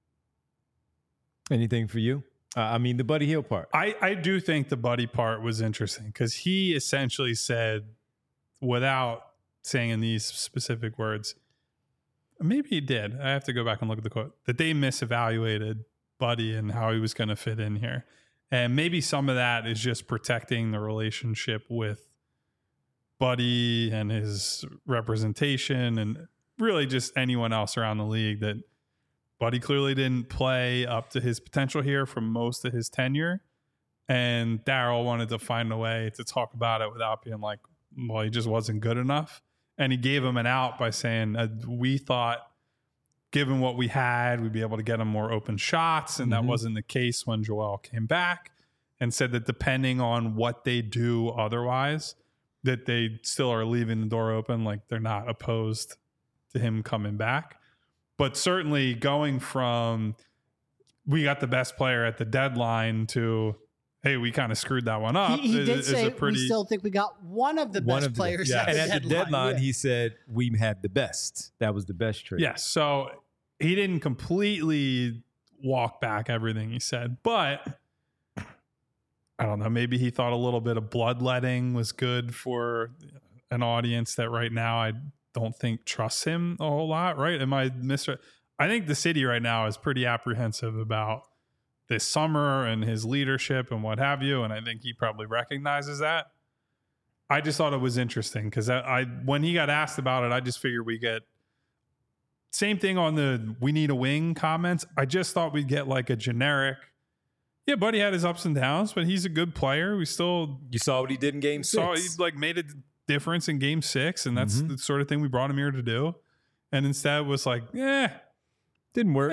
Anything for you? I mean, the Buddy Hield part. I do think the buddy part was interesting because he essentially said, without saying in these specific words, maybe he did. I have to go back and look at the quote, that they misevaluated Buddy and how he was going to fit in here. And maybe some of that is just protecting the relationship with Buddy and his representation and really just anyone else around the league, that Buddy clearly didn't play up to his potential here for most of his tenure. And Daryl wanted to find a way to talk about it without being like, well, he just wasn't good enough. And he gave him an out by saying, we thought, given what we had, we'd be able to get him more open shots. And that wasn't the case when Joel came back, and said that depending on what they do otherwise, that they still are leaving the door open. Like they're not opposed to him coming back. But certainly going from, we got the best player at the deadline to, hey, we kind of screwed that one up. He did is say a pretty, we still think we got one of the best players. yeah. At And the at the deadline, Yeah. he said we had the best. That was the best trade. yes. So he didn't completely walk back everything he said, but I don't know. Maybe he thought a little bit of bloodletting was good for an audience that right now I don't think trusts him a whole lot. Right? Am I I think the city right now is pretty apprehensive about this summer and his leadership and what have you. And I think he probably recognizes that. I just thought it was interesting because I when he got asked about it, I just figured we get same thing on the we need a wing comments. I just thought we'd get like a generic, yeah, Buddy had his ups and downs, but he's a good player. We still You saw what he did in game saw six. he like made a difference in game 6, and that's the sort of thing we brought him here to do. And instead was like, Didn't work.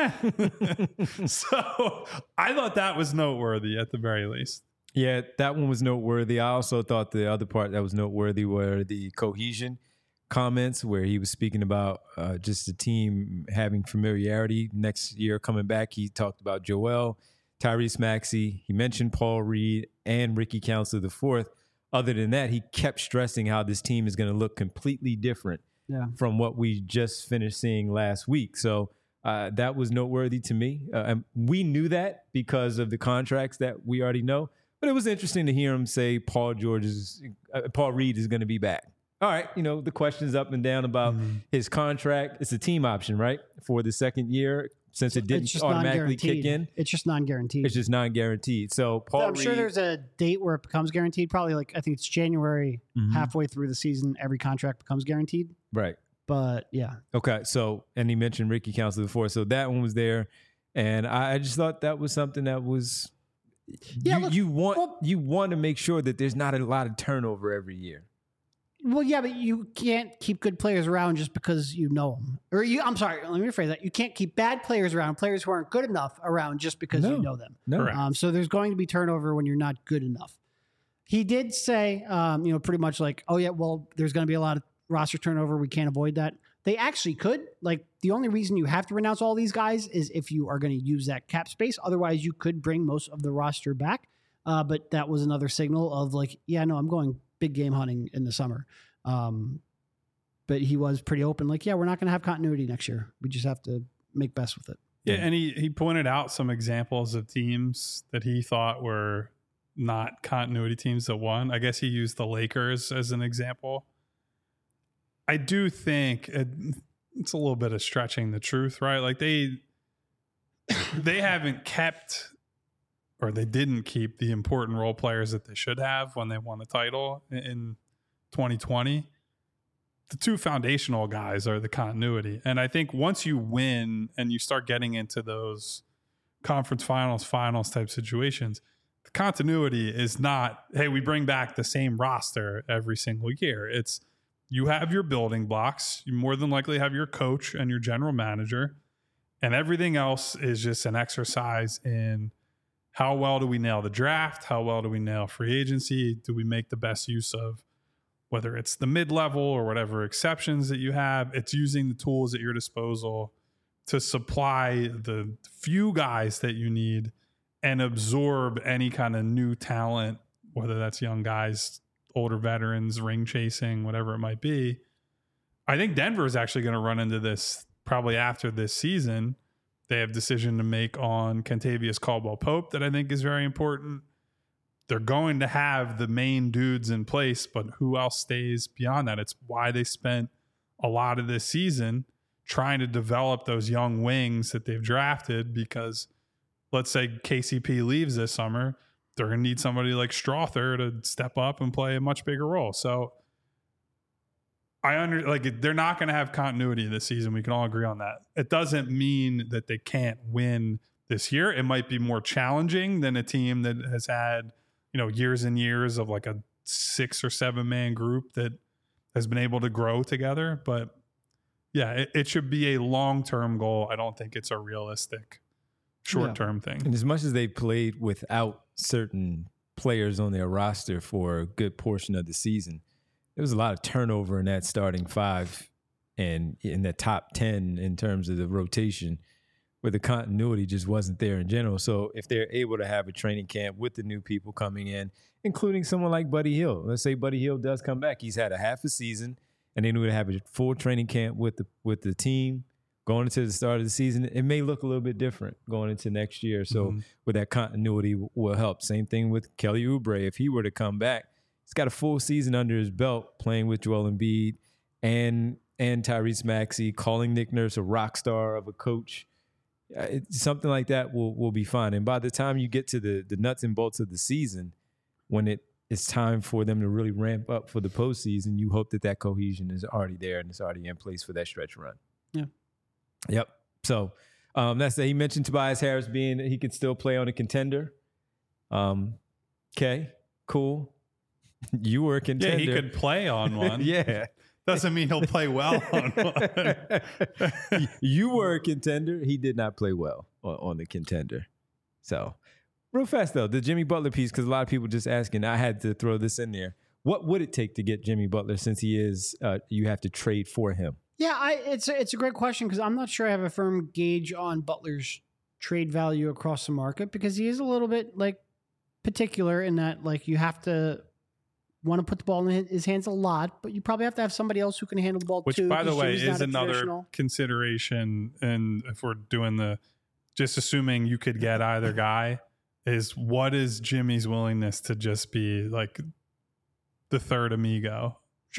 So I thought that was noteworthy at the very least. Yeah, that one was noteworthy. I also thought the other part that was noteworthy were the cohesion comments, where he was speaking about just the team having familiarity next year coming back. He talked about Joel, Tyrese Maxey. He mentioned Paul Reed and Ricky Counselor IV. Other than that, he kept stressing how this team is going to look completely different from what we just finished seeing last week. So that was noteworthy to me. And we knew that because of the contracts that we already know. But it was interesting to hear him say Paul Reed is going to be back. All right, the questions up and down about his contract. It's a team option, right, for the second year, since it didn't automatically kick in. It's just non-guaranteed. It's just non-guaranteed. So Paul Reed, sure there's a date where it becomes guaranteed. Probably I think it's January, halfway through the season, every contract becomes guaranteed. Right. But yeah. Okay. So, and he mentioned Ricky Council before, so that one was there, and I just thought that was something that was. Yeah, you want to make sure that there's not a lot of turnover every year. Well, yeah, but you can't keep good players around just because you know them. I'm sorry, let me rephrase that. You can't keep bad players around, players who aren't good enough around just because you know them. No. So there's going to be turnover when you're not good enough. He did say, pretty much like, oh yeah, well, there's going to be a lot of roster turnover. We can't avoid that. They actually could. Like, the only reason you have to renounce all these guys is if you are going to use that cap space. Otherwise, you could bring most of the roster back. But that was another signal of like, yeah, no, I'm going big game hunting in the summer. But he was pretty open. Like, yeah, we're not going to have continuity next year. We just have to make best with it. Yeah, and he pointed out some examples of teams that he thought were not continuity teams that won. I guess he used the Lakers as an example. I do think it's a little bit of stretching the truth, right? Like they haven't kept, or they didn't keep, the important role players that they should have when they won the title in 2020. The two foundational guys are the continuity. And I think once you win and you start getting into those conference finals type situations, the continuity is not, hey, we bring back the same roster every single year. It's, you have your building blocks. You more than likely have your coach and your general manager, and everything else is just an exercise in how well do we nail the draft? How well do we nail free agency? Do we make the best use of whether it's the mid-level or whatever exceptions that you have? It's using the tools at your disposal to supply the few guys that you need and absorb any kind of new talent, whether that's young guys, older veterans, ring chasing, whatever it might be. I think Denver is actually going to run into this probably after this season. They have a decision to make on Kentavious Caldwell-Pope that I think is very important. They're going to have the main dudes in place, but who else stays beyond that? It's why they spent a lot of this season trying to develop those young wings that they've drafted, because let's say KCP leaves this summer, they're going to need somebody like Strother to step up and play a much bigger role. So they're not going to have continuity this season. We can all agree on that. It doesn't mean that they can't win this year. It might be more challenging than a team that has had, years and years of like a 6 or 7 man group that has been able to grow together. But yeah, it should be a long-term goal. I don't think it's a realistic short-term thing. And as much as they played without certain players on their roster for a good portion of the season, there was a lot of turnover in that starting 5 and in the top 10 in terms of the rotation, where the continuity just wasn't there in general. So if they're able to have a training camp with the new people coming in, including someone like Buddy Hield, let's say Buddy Hield does come back, he's had a half a season, and then we would have a full training camp with the team going into the start of the season. It may look a little bit different going into next year. So with that continuity will help. Same thing with Kelly Oubre. If he were to come back, he's got a full season under his belt playing with Joel Embiid and Tyrese Maxey, calling Nick Nurse a rock star of a coach. Something like that will be fine. And by the time you get to the nuts and bolts of the season, when it's time for them to really ramp up for the postseason, you hope that cohesion is already there and it's already in place for that stretch run. Yeah. Yep. So that's that. He mentioned Tobias Harris being he could still play on a contender. Okay, cool. You were a contender. Yeah, he could play on one. Yeah. Doesn't mean he'll play well on one. You were a contender. He did not play well on the contender. So, real fast though, the Jimmy Butler piece, because a lot of people just asking, I had to throw this in there. What would it take to get Jimmy Butler, since he is, you have to trade for him? Yeah, it's a great question, because I'm not sure I have a firm gauge on Butler's trade value across the market, because he is a little bit like particular in that, like, you have to want to put the ball in his hands a lot, but you probably have to have somebody else who can handle the ball Which, too. by the way, Jimmy's is another consideration. And if we're doing just assuming you could get either guy, is what is Jimmy's willingness to just be like the third amigo? Sure.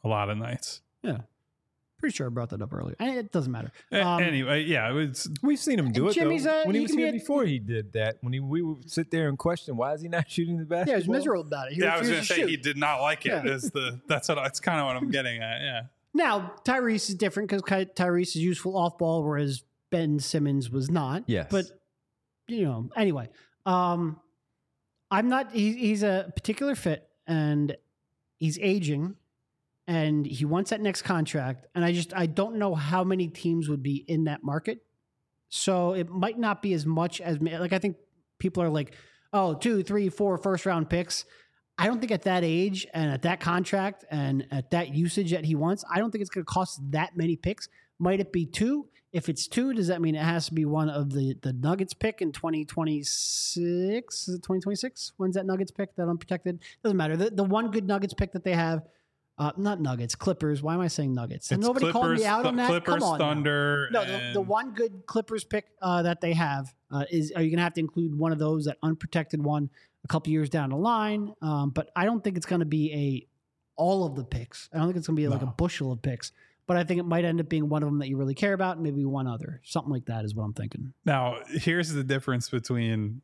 a lot of nights. Yeah. Pretty sure I brought that up earlier. It doesn't matter. Anyway, yeah, we've seen him do it. Jimmy's though. When he was here be before, he did that. When we would sit there and question, why is he not shooting the basketball? Yeah, he was miserable about it. He I was going refused to say shoot. he did not like it. Yeah. That's kind of what I'm getting at. Yeah. Now, Tyrese is different because Tyrese is useful off ball, whereas Ben Simmons was not. Yes. But, anyway, I'm not, he's a particular fit and he's aging and he wants that next contract. And I don't know how many teams would be in that market. So it might not be as much as, like, I think people are like, oh, 2, 3, 4 first round picks. I don't think at that age and at that contract and at that usage that he wants, I don't think it's going to cost that many picks. Might it be 2? If it's 2, does that mean it has to be one of the Nuggets pick in 2026? Is it 2026? When's that Nuggets pick, that unprotected? Doesn't matter. The one good Nuggets pick that they have, not Nuggets, Clippers. Why am I saying Nuggets? And nobody called me out on that. Clippers, Come on, Thunder. now. No, the one good Clippers pick that they have are you going to have to include one of those, that unprotected one, a couple years down the line? But I don't think it's going to be all of the picks. I don't think it's going to be like a bushel of picks. But I think it might end up being one of them that you really care about, and maybe one other. Something like that is what I'm thinking. Now, here's the difference between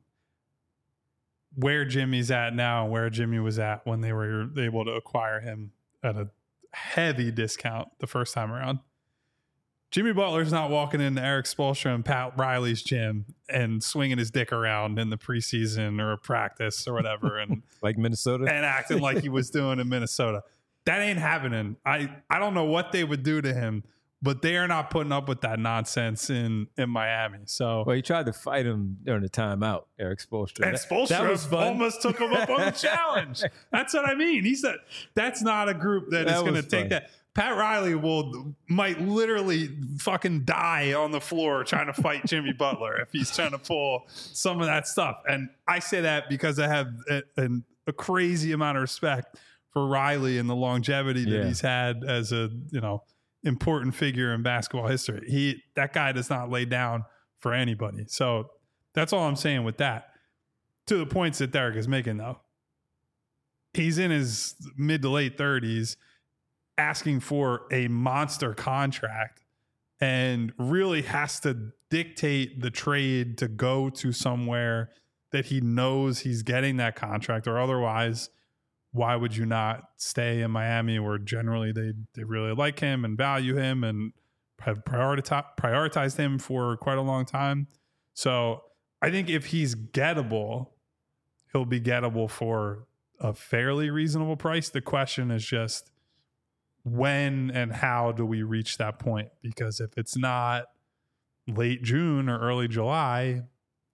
where Jimmy's at now and where Jimmy was at when they were able to acquire him at a heavy discount the first time around. Jimmy Butler's not walking into Eric Spoelstra and Pat Riley's gym and swinging his dick around in the preseason or practice or whatever, and like Minnesota, and acting like he was doing in Minnesota. That ain't happening. I don't know what they would do to him, but they are not putting up with that nonsense in Miami. So, well, he tried to fight him during the timeout, Eric Spoelstra. And Spoelstra almost took him up on the challenge. That's what I mean. He said that's not a group that is going to take that. Pat Riley might literally fucking die on the floor trying to fight Jimmy Butler if he's trying to pull some of that stuff. And I say that because I have a crazy amount of respect for Riley and the longevity that he's had as a, important figure in basketball history. That guy does not lay down for anybody. So that's all I'm saying with that. To the points that Derek is making, though, he's in his mid to late 30s asking for a monster contract and really has to dictate the trade to go to somewhere that he knows he's getting that contract, or otherwise, why would you not stay in Miami where generally they really like him and value him and have prioritized him for quite a long time? So I think if he's gettable, he'll be gettable for a fairly reasonable price. The question is just when and how do we reach that point? Because if it's not late June or early July,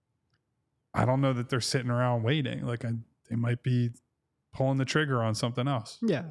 I don't know that they're sitting around waiting. Like they might be pulling the trigger on something else. Yeah.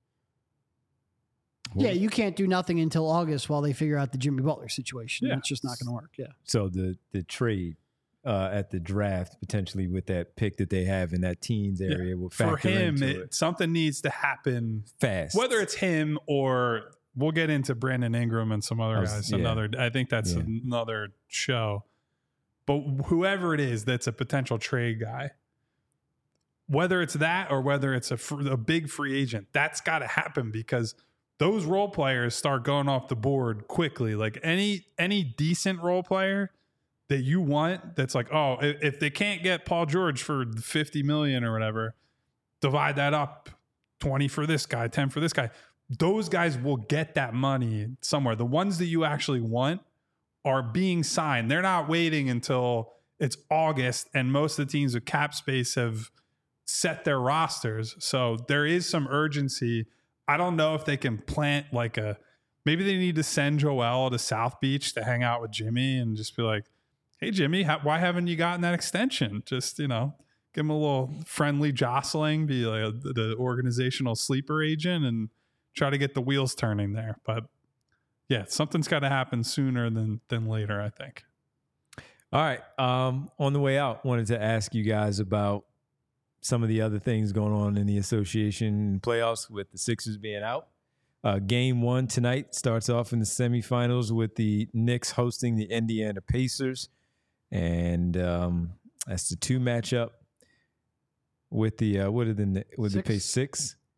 Yeah, you can't do nothing until August while they figure out the Jimmy Butler situation. Yeah. It's just not going to work. Yeah. So the trade at the draft, potentially with that pick that they have in that teens area, will factor for him. into it. Something needs to happen Fast. Whether it's him or we'll get into Brandon Ingram and some other guys. Yeah. I think that's another show. But whoever it is that's a potential trade guy, whether it's that or whether it's a big free agent, that's got to happen because those role players start going off the board quickly. Like any decent role player that you want, that's like, oh, if they can't get Paul George for $50 million or whatever, divide that up, 20 for this guy, 10 for this guy. Those guys will get that money somewhere. The ones that you actually want are being signed. They're not waiting until it's August, and most of the teams with cap space have set their rosters. So there is some urgency. I don't know if they can plant maybe they need to send Joel to South Beach to hang out with Jimmy and just be like, hey, Jimmy, why haven't you gotten that extension? Just, give him a little friendly jostling, be like the organizational sleeper agent and try to get the wheels turning there. But yeah, something's got to happen sooner than later, I think. All right. On the way out, wanted to ask you guys about some of the other things going on in the association playoffs with the Sixers being out. Game 1 tonight starts off in the semifinals with the Knicks hosting the Indiana Pacers. And that's the 2 matchup with the the Pacers 6.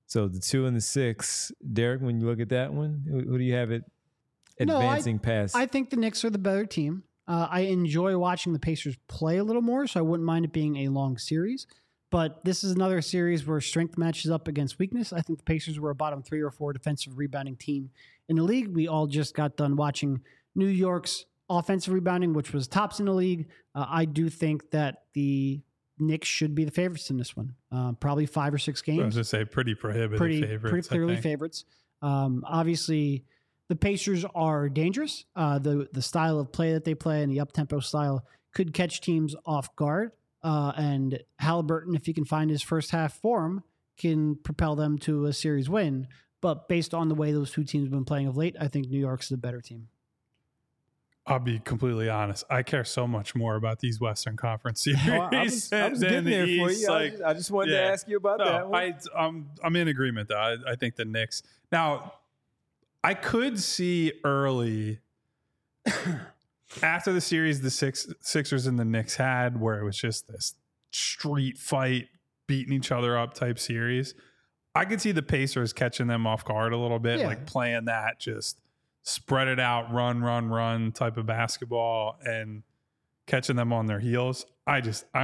So the 2 and the 6, Derek. When you look at that one, who do you have it advancing past? I think the Knicks are the better team. I enjoy watching the Pacers play a little more, so I wouldn't mind it being a long series. But this is another series where strength matches up against weakness. I think the Pacers were a bottom 3 or 4 defensive rebounding team in the league. We all just got done watching New York's offensive rebounding, which was tops in the league. I do think that the Knicks should be the favorites in this one. Probably 5 or 6 games. I was going to say pretty prohibitive favorites. Pretty clearly favorites. Obviously, the Pacers are dangerous. The style of play that they play and the up-tempo style could catch teams off guard. And Halliburton, if he can find his first half form, can propel them to a series win. But based on the way those two teams have been playing of late, I think New York's the better team. I'll be completely honest. I care so much more about these Western Conference series. I was getting there for you. I just wanted to ask you about that one. I'm in agreement, though. I think the Knicks. Now, I could see early after the series the Sixers and the Knicks had, where it was just this street fight, beating each other up type series. I could see the Pacers catching them off guard a little bit, like playing that just spread it out, run type of basketball and catching them on their heels. I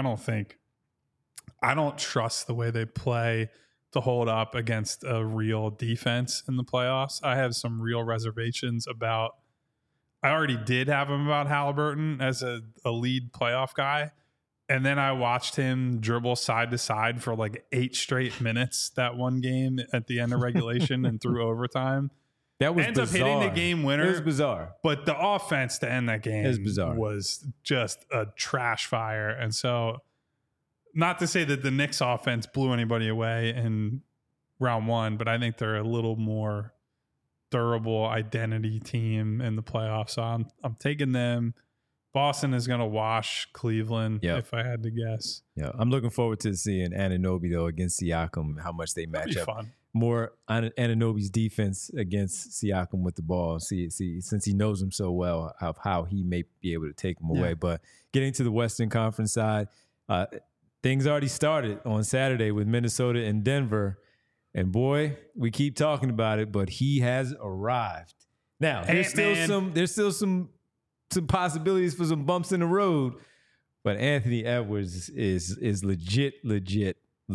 don't trust the way they play to hold up against a real defense in the playoffs. I have some real reservations about, I already did have them about Halliburton as a lead playoff guy. And then I watched him dribble side to side for like 8 straight minutes that one game at the end of regulation and through overtime. That was ends bizarre. up hitting the game winner. It was bizarre. But the offense to end that game was just a trash fire. And so, not to say that the Knicks offense blew anybody away in round 1, but I think they're a little more durable identity team in the playoffs. So I'm taking them. Boston is going to wash Cleveland, if I had to guess. Yeah, I'm looking forward to seeing Anunoby, though, against Siakam, how much they match up. Fun. More Anunoby's defense against Siakam with the ball. See, since he knows him so well, of how he may be able to take him away. But getting to the Western Conference side, things already started on Saturday with Minnesota and Denver. And boy, we keep talking about it, but he has arrived. Now, there's still some possibilities for some bumps in the road, but Anthony Edwards is legit.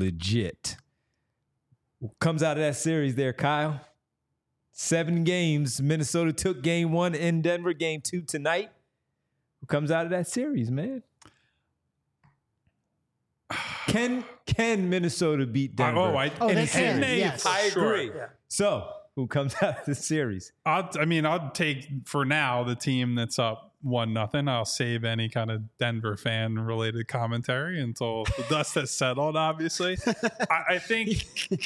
Comes out of that series there, Kyle. 7 games. Minnesota took game 1 in Denver, game 2 tonight. Who comes out of that series, man? Can Minnesota beat Denver? They can. Yes. I agree. Yeah. So, who comes out of the series? I'll take for now the team that's up 1-0. I'll save any kind of Denver fan related commentary until the dust has settled. Obviously, I think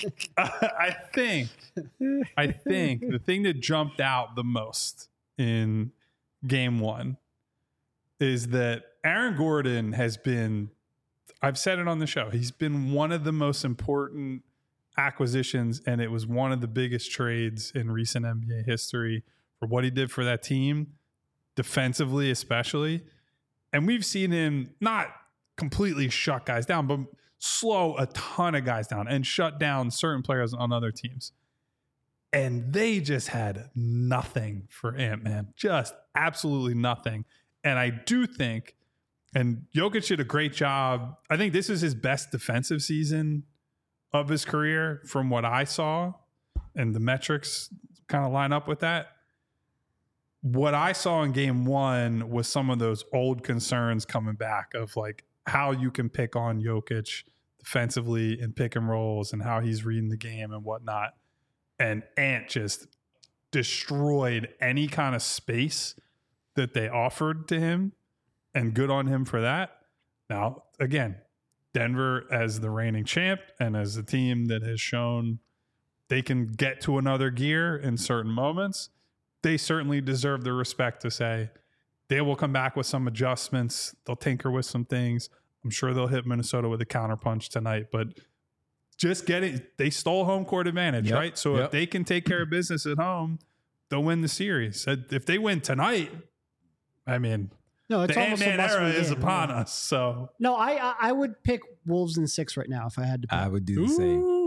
the thing that jumped out the most in game 1 is that Aaron Gordon has been. I've said it on the show. He's been one of the most important acquisitions, and it was one of the biggest trades in recent NBA history for what he did for that team, defensively especially. And we've seen him not completely shut guys down, but slow a ton of guys down and shut down certain players on other teams. And they just had nothing for Ant-Man, just absolutely nothing. And I do think, and Jokic did a great job. I think this is his best defensive season of his career from what I saw, and the metrics kind of line up with that. What I saw in game 1 was some of those old concerns coming back of like how you can pick on Jokic defensively in pick and rolls and how he's reading the game and whatnot. And Ant just destroyed any kind of space that they offered to him. And good on him for that. Now, again, Denver as the reigning champ and as a team that has shown they can get to another gear in certain moments, they certainly deserve the respect to say they will come back with some adjustments. They'll tinker with some things. I'm sure they'll hit Minnesota with a counterpunch tonight, but they stole home court advantage, right? So if they can take care of business at home, they'll win the series. If they win tonight, no, it's the almost Ant-Man a must-win era is game, upon us. So no, I would pick Wolves in 6 right now if I had to pick. I would do the same.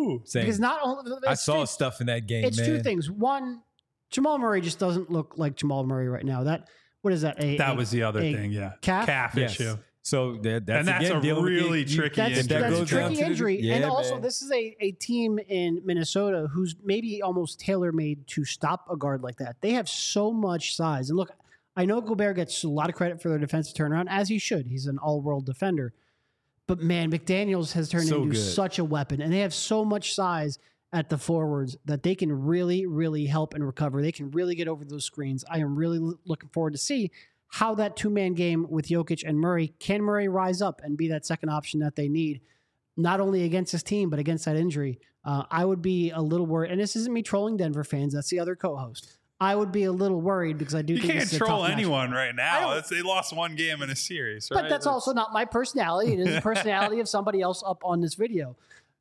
Ooh. saying, because not only I saw stuff in that game, it's man. two things. One, Jamal Murray just doesn't look like Jamal Murray right now. What is that? That was the other a thing, yeah. calf Yes. issue. So that's And that's again, a dealing with really tricky That's injury. That a goes down tricky to the- injury. Yeah, and also, man. this is a team in Minnesota who's maybe almost tailor-made to stop a guard like that. They have so much size. And look, I know Gobert gets a lot of credit for their defensive turnaround, as he should. He's an all-world defender. But, man, McDaniels has turned So into good. such a weapon. And they have so much size at the forwards that they can really, really help and recover. They can really get over those screens. I am really looking forward to see how that two-man game with Jokic and Murray, can Murray rise up and be that second option that they need, not only against his team, but against that injury? I would be a little worried. And this isn't me trolling Denver fans. That's the other co-host. I would be a little worried because I do You think can't this is a troll tough matchup. anyone right I now. don't- They lost one game in a series, right? But that's also not my personality. It is the personality of somebody else up on this video.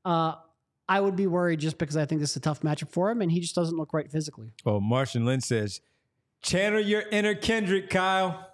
I would be worried just because I think this is a tough matchup for him, and he just doesn't look right physically. Oh, Martian Lynn says, channel your inner Kendrick, Kyle.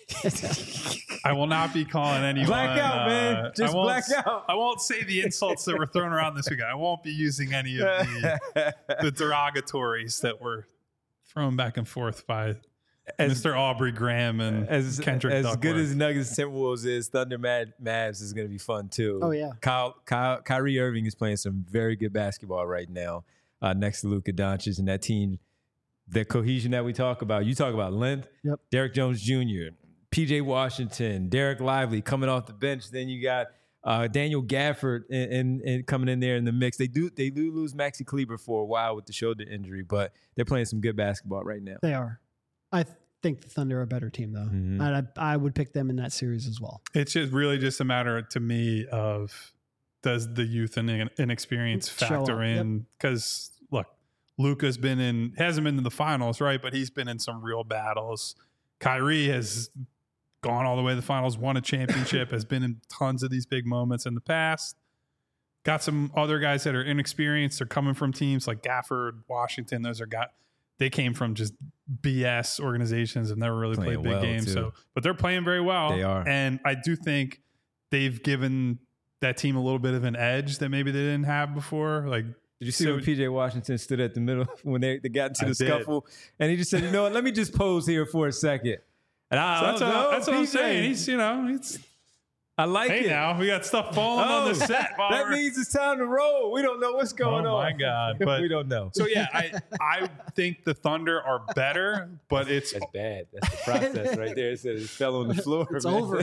I will not be calling anyone. Black out, man. Just I won't- black out. I won't say the insults that were thrown around this weekend. I won't be using any of the derogatories that were thrown back and forth by Mr. Aubrey Graham and as Kendrick as Duckworth. good as Nuggets Timberwolves is, Thunder Mavs is going to be fun too. Oh, yeah. Kyrie Irving is playing some very good basketball right now next to Luka Doncic and that team. The cohesion that we talk about. You talk about length. Yep. Derrick Jones Jr., PJ Washington, Derek Lively coming off the bench. Then you got Daniel Gafford and coming in there in the mix. They do lose Maxi Kleber for a while with the shoulder injury, but they're playing some good basketball right now. They are. I think the Thunder are a better team, though. Mhm. And I would pick them in that series as well. It's just really just a matter to me of does the youth and inexperience Show factor up, yep. in? Because look, Luka's hasn't been in the finals, right? But he's been in some real battles. Kyrie has gone all the way to the finals, won a championship, has been in tons of these big moments in the past. Got some other guys that are inexperienced. They're coming from teams like Gafford, Washington. They came from just BS organizations, have never really Playing played big well, games. too. So, but they're playing very well. They are. And I do think they've given that team a little bit of an edge that maybe they didn't have before. Like, Did you see So- when PJ Washington stood at the middle when they got into I the did. scuffle and he just said, you know what, let me just pose here for a second. And so that's what I'm saying. He's, I like hey it. now, we got stuff falling on the set. while That we're- means it's time to roll. We don't know what's going Oh, on. my God. But- we don't know. So yeah, I think the Thunder are better, but it's That's bad. That's the process right there. It said it fell on the floor. It's man. over.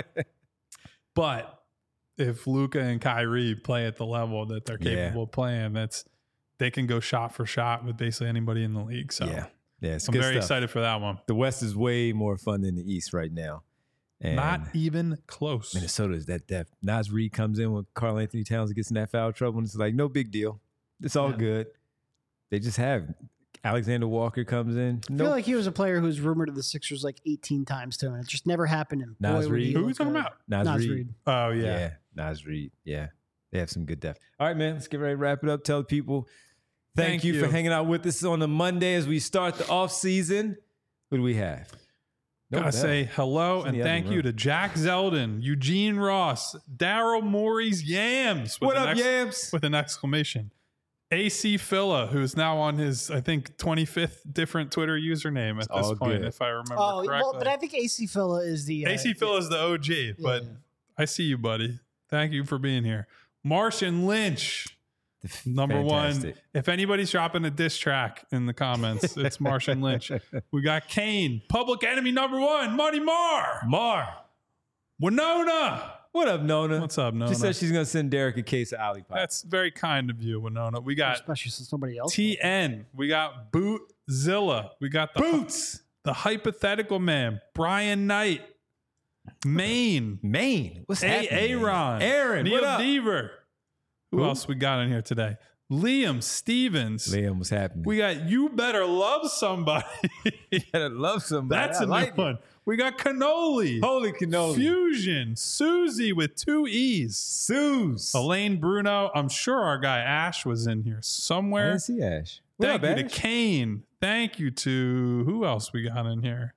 but if Luka and Kyrie play at the level that they're capable of playing, they can go shot for shot with basically anybody in the league. So Yeah. Yeah, it's I'm good very stuff. excited for that one. The West is way more fun than the East right now. And Not even close. Minnesota is that depth. Nas Reed comes in when Karl Anthony Towns gets in that foul trouble, and it's like, no big deal. It's all Yeah. good. They just have Alexander Walker comes in. I feel like he was a player who was rumored to the Sixers like 18 times too, and it just never happened. And boy, Nas would he Reed. Who are look we talking good. about? Nas Reed. Reed. Oh yeah. Yeah, Nas Reed. Yeah, they have some good depth. All right, man, let's get ready to wrap it up. Tell people thank you for hanging out with us on a Monday as we start the off season. What do we have? No Gotta bell. say hello It's in and the other thank you room. to Jack Zeldin, Eugene Ross, Daryl Morey's Yams. What up, Yams? With an exclamation. AC Phila, who's now on his, I think, 25th different Twitter username at this all point, good. if I remember Oh, correctly. well, but I think AC Phila is the AC Phila is the OG, but yeah. I see you, buddy. Thank you for being here. Martian Lynch, number Fantastic. one. If anybody's dropping a diss track in the comments, it's Martian Lynch. We got Kane, Public Enemy number one, Money Mar. Winona. What up, Nona? What's up, Nona? She said she's gonna send Derek a case of Olipop. That's very kind of you, Winona. We got especially since somebody else. TN. We got Bootzilla. We got the Boots. the hypothetical man, Brian Knight, Maine, Maine. What's happening? Aaron, Aaron, Neil what up? Deaver. Who Who? else we got in here today? Liam Stevens. Liam, what's happening? We got You Better Love Somebody. gotta love somebody. That's I a like new it. one. We got Cannoli. Holy cannoli. Fusion. Susie with 2 E's. Suze. Elaine Bruno. I'm sure our guy Ash was in here I somewhere. didn't see Ash. What Thank up, you Ash? to Kane. Thank you to who else we got in here?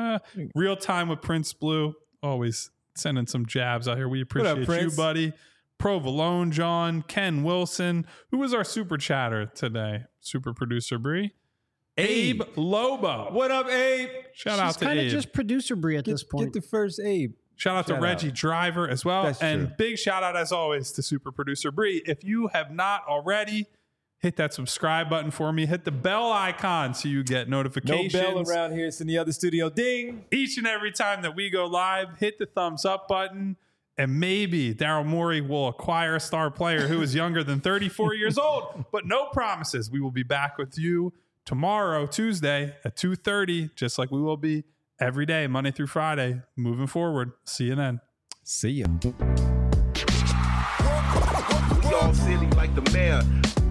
Real Time with Prince Blue. Always sending some jabs out here. We appreciate you, Prince? buddy. Provolone John, Ken Wilson. Who was our super chatter today? Super producer Bree. Abe Lobo. What up, Abe? Shout out She's to kind of Abe. just producer Bree at this point. Get the first Abe. Shout out to Reggie Driver as well. That's and true. big shout out, as always, to super producer Bree. If you have not already, hit that subscribe button for me. Hit the bell icon so you get No notifications. bell around here. It's in the other studio. Ding. Each and every time that we go live, hit the thumbs up button. And maybe Daryl Morey will acquire a star player who is younger than 34 years old. But no promises. We will be back with you tomorrow, Tuesday at 2:30, just like we will be every day, Monday through Friday, moving forward. See you then. See ya. We all silly like the mayor.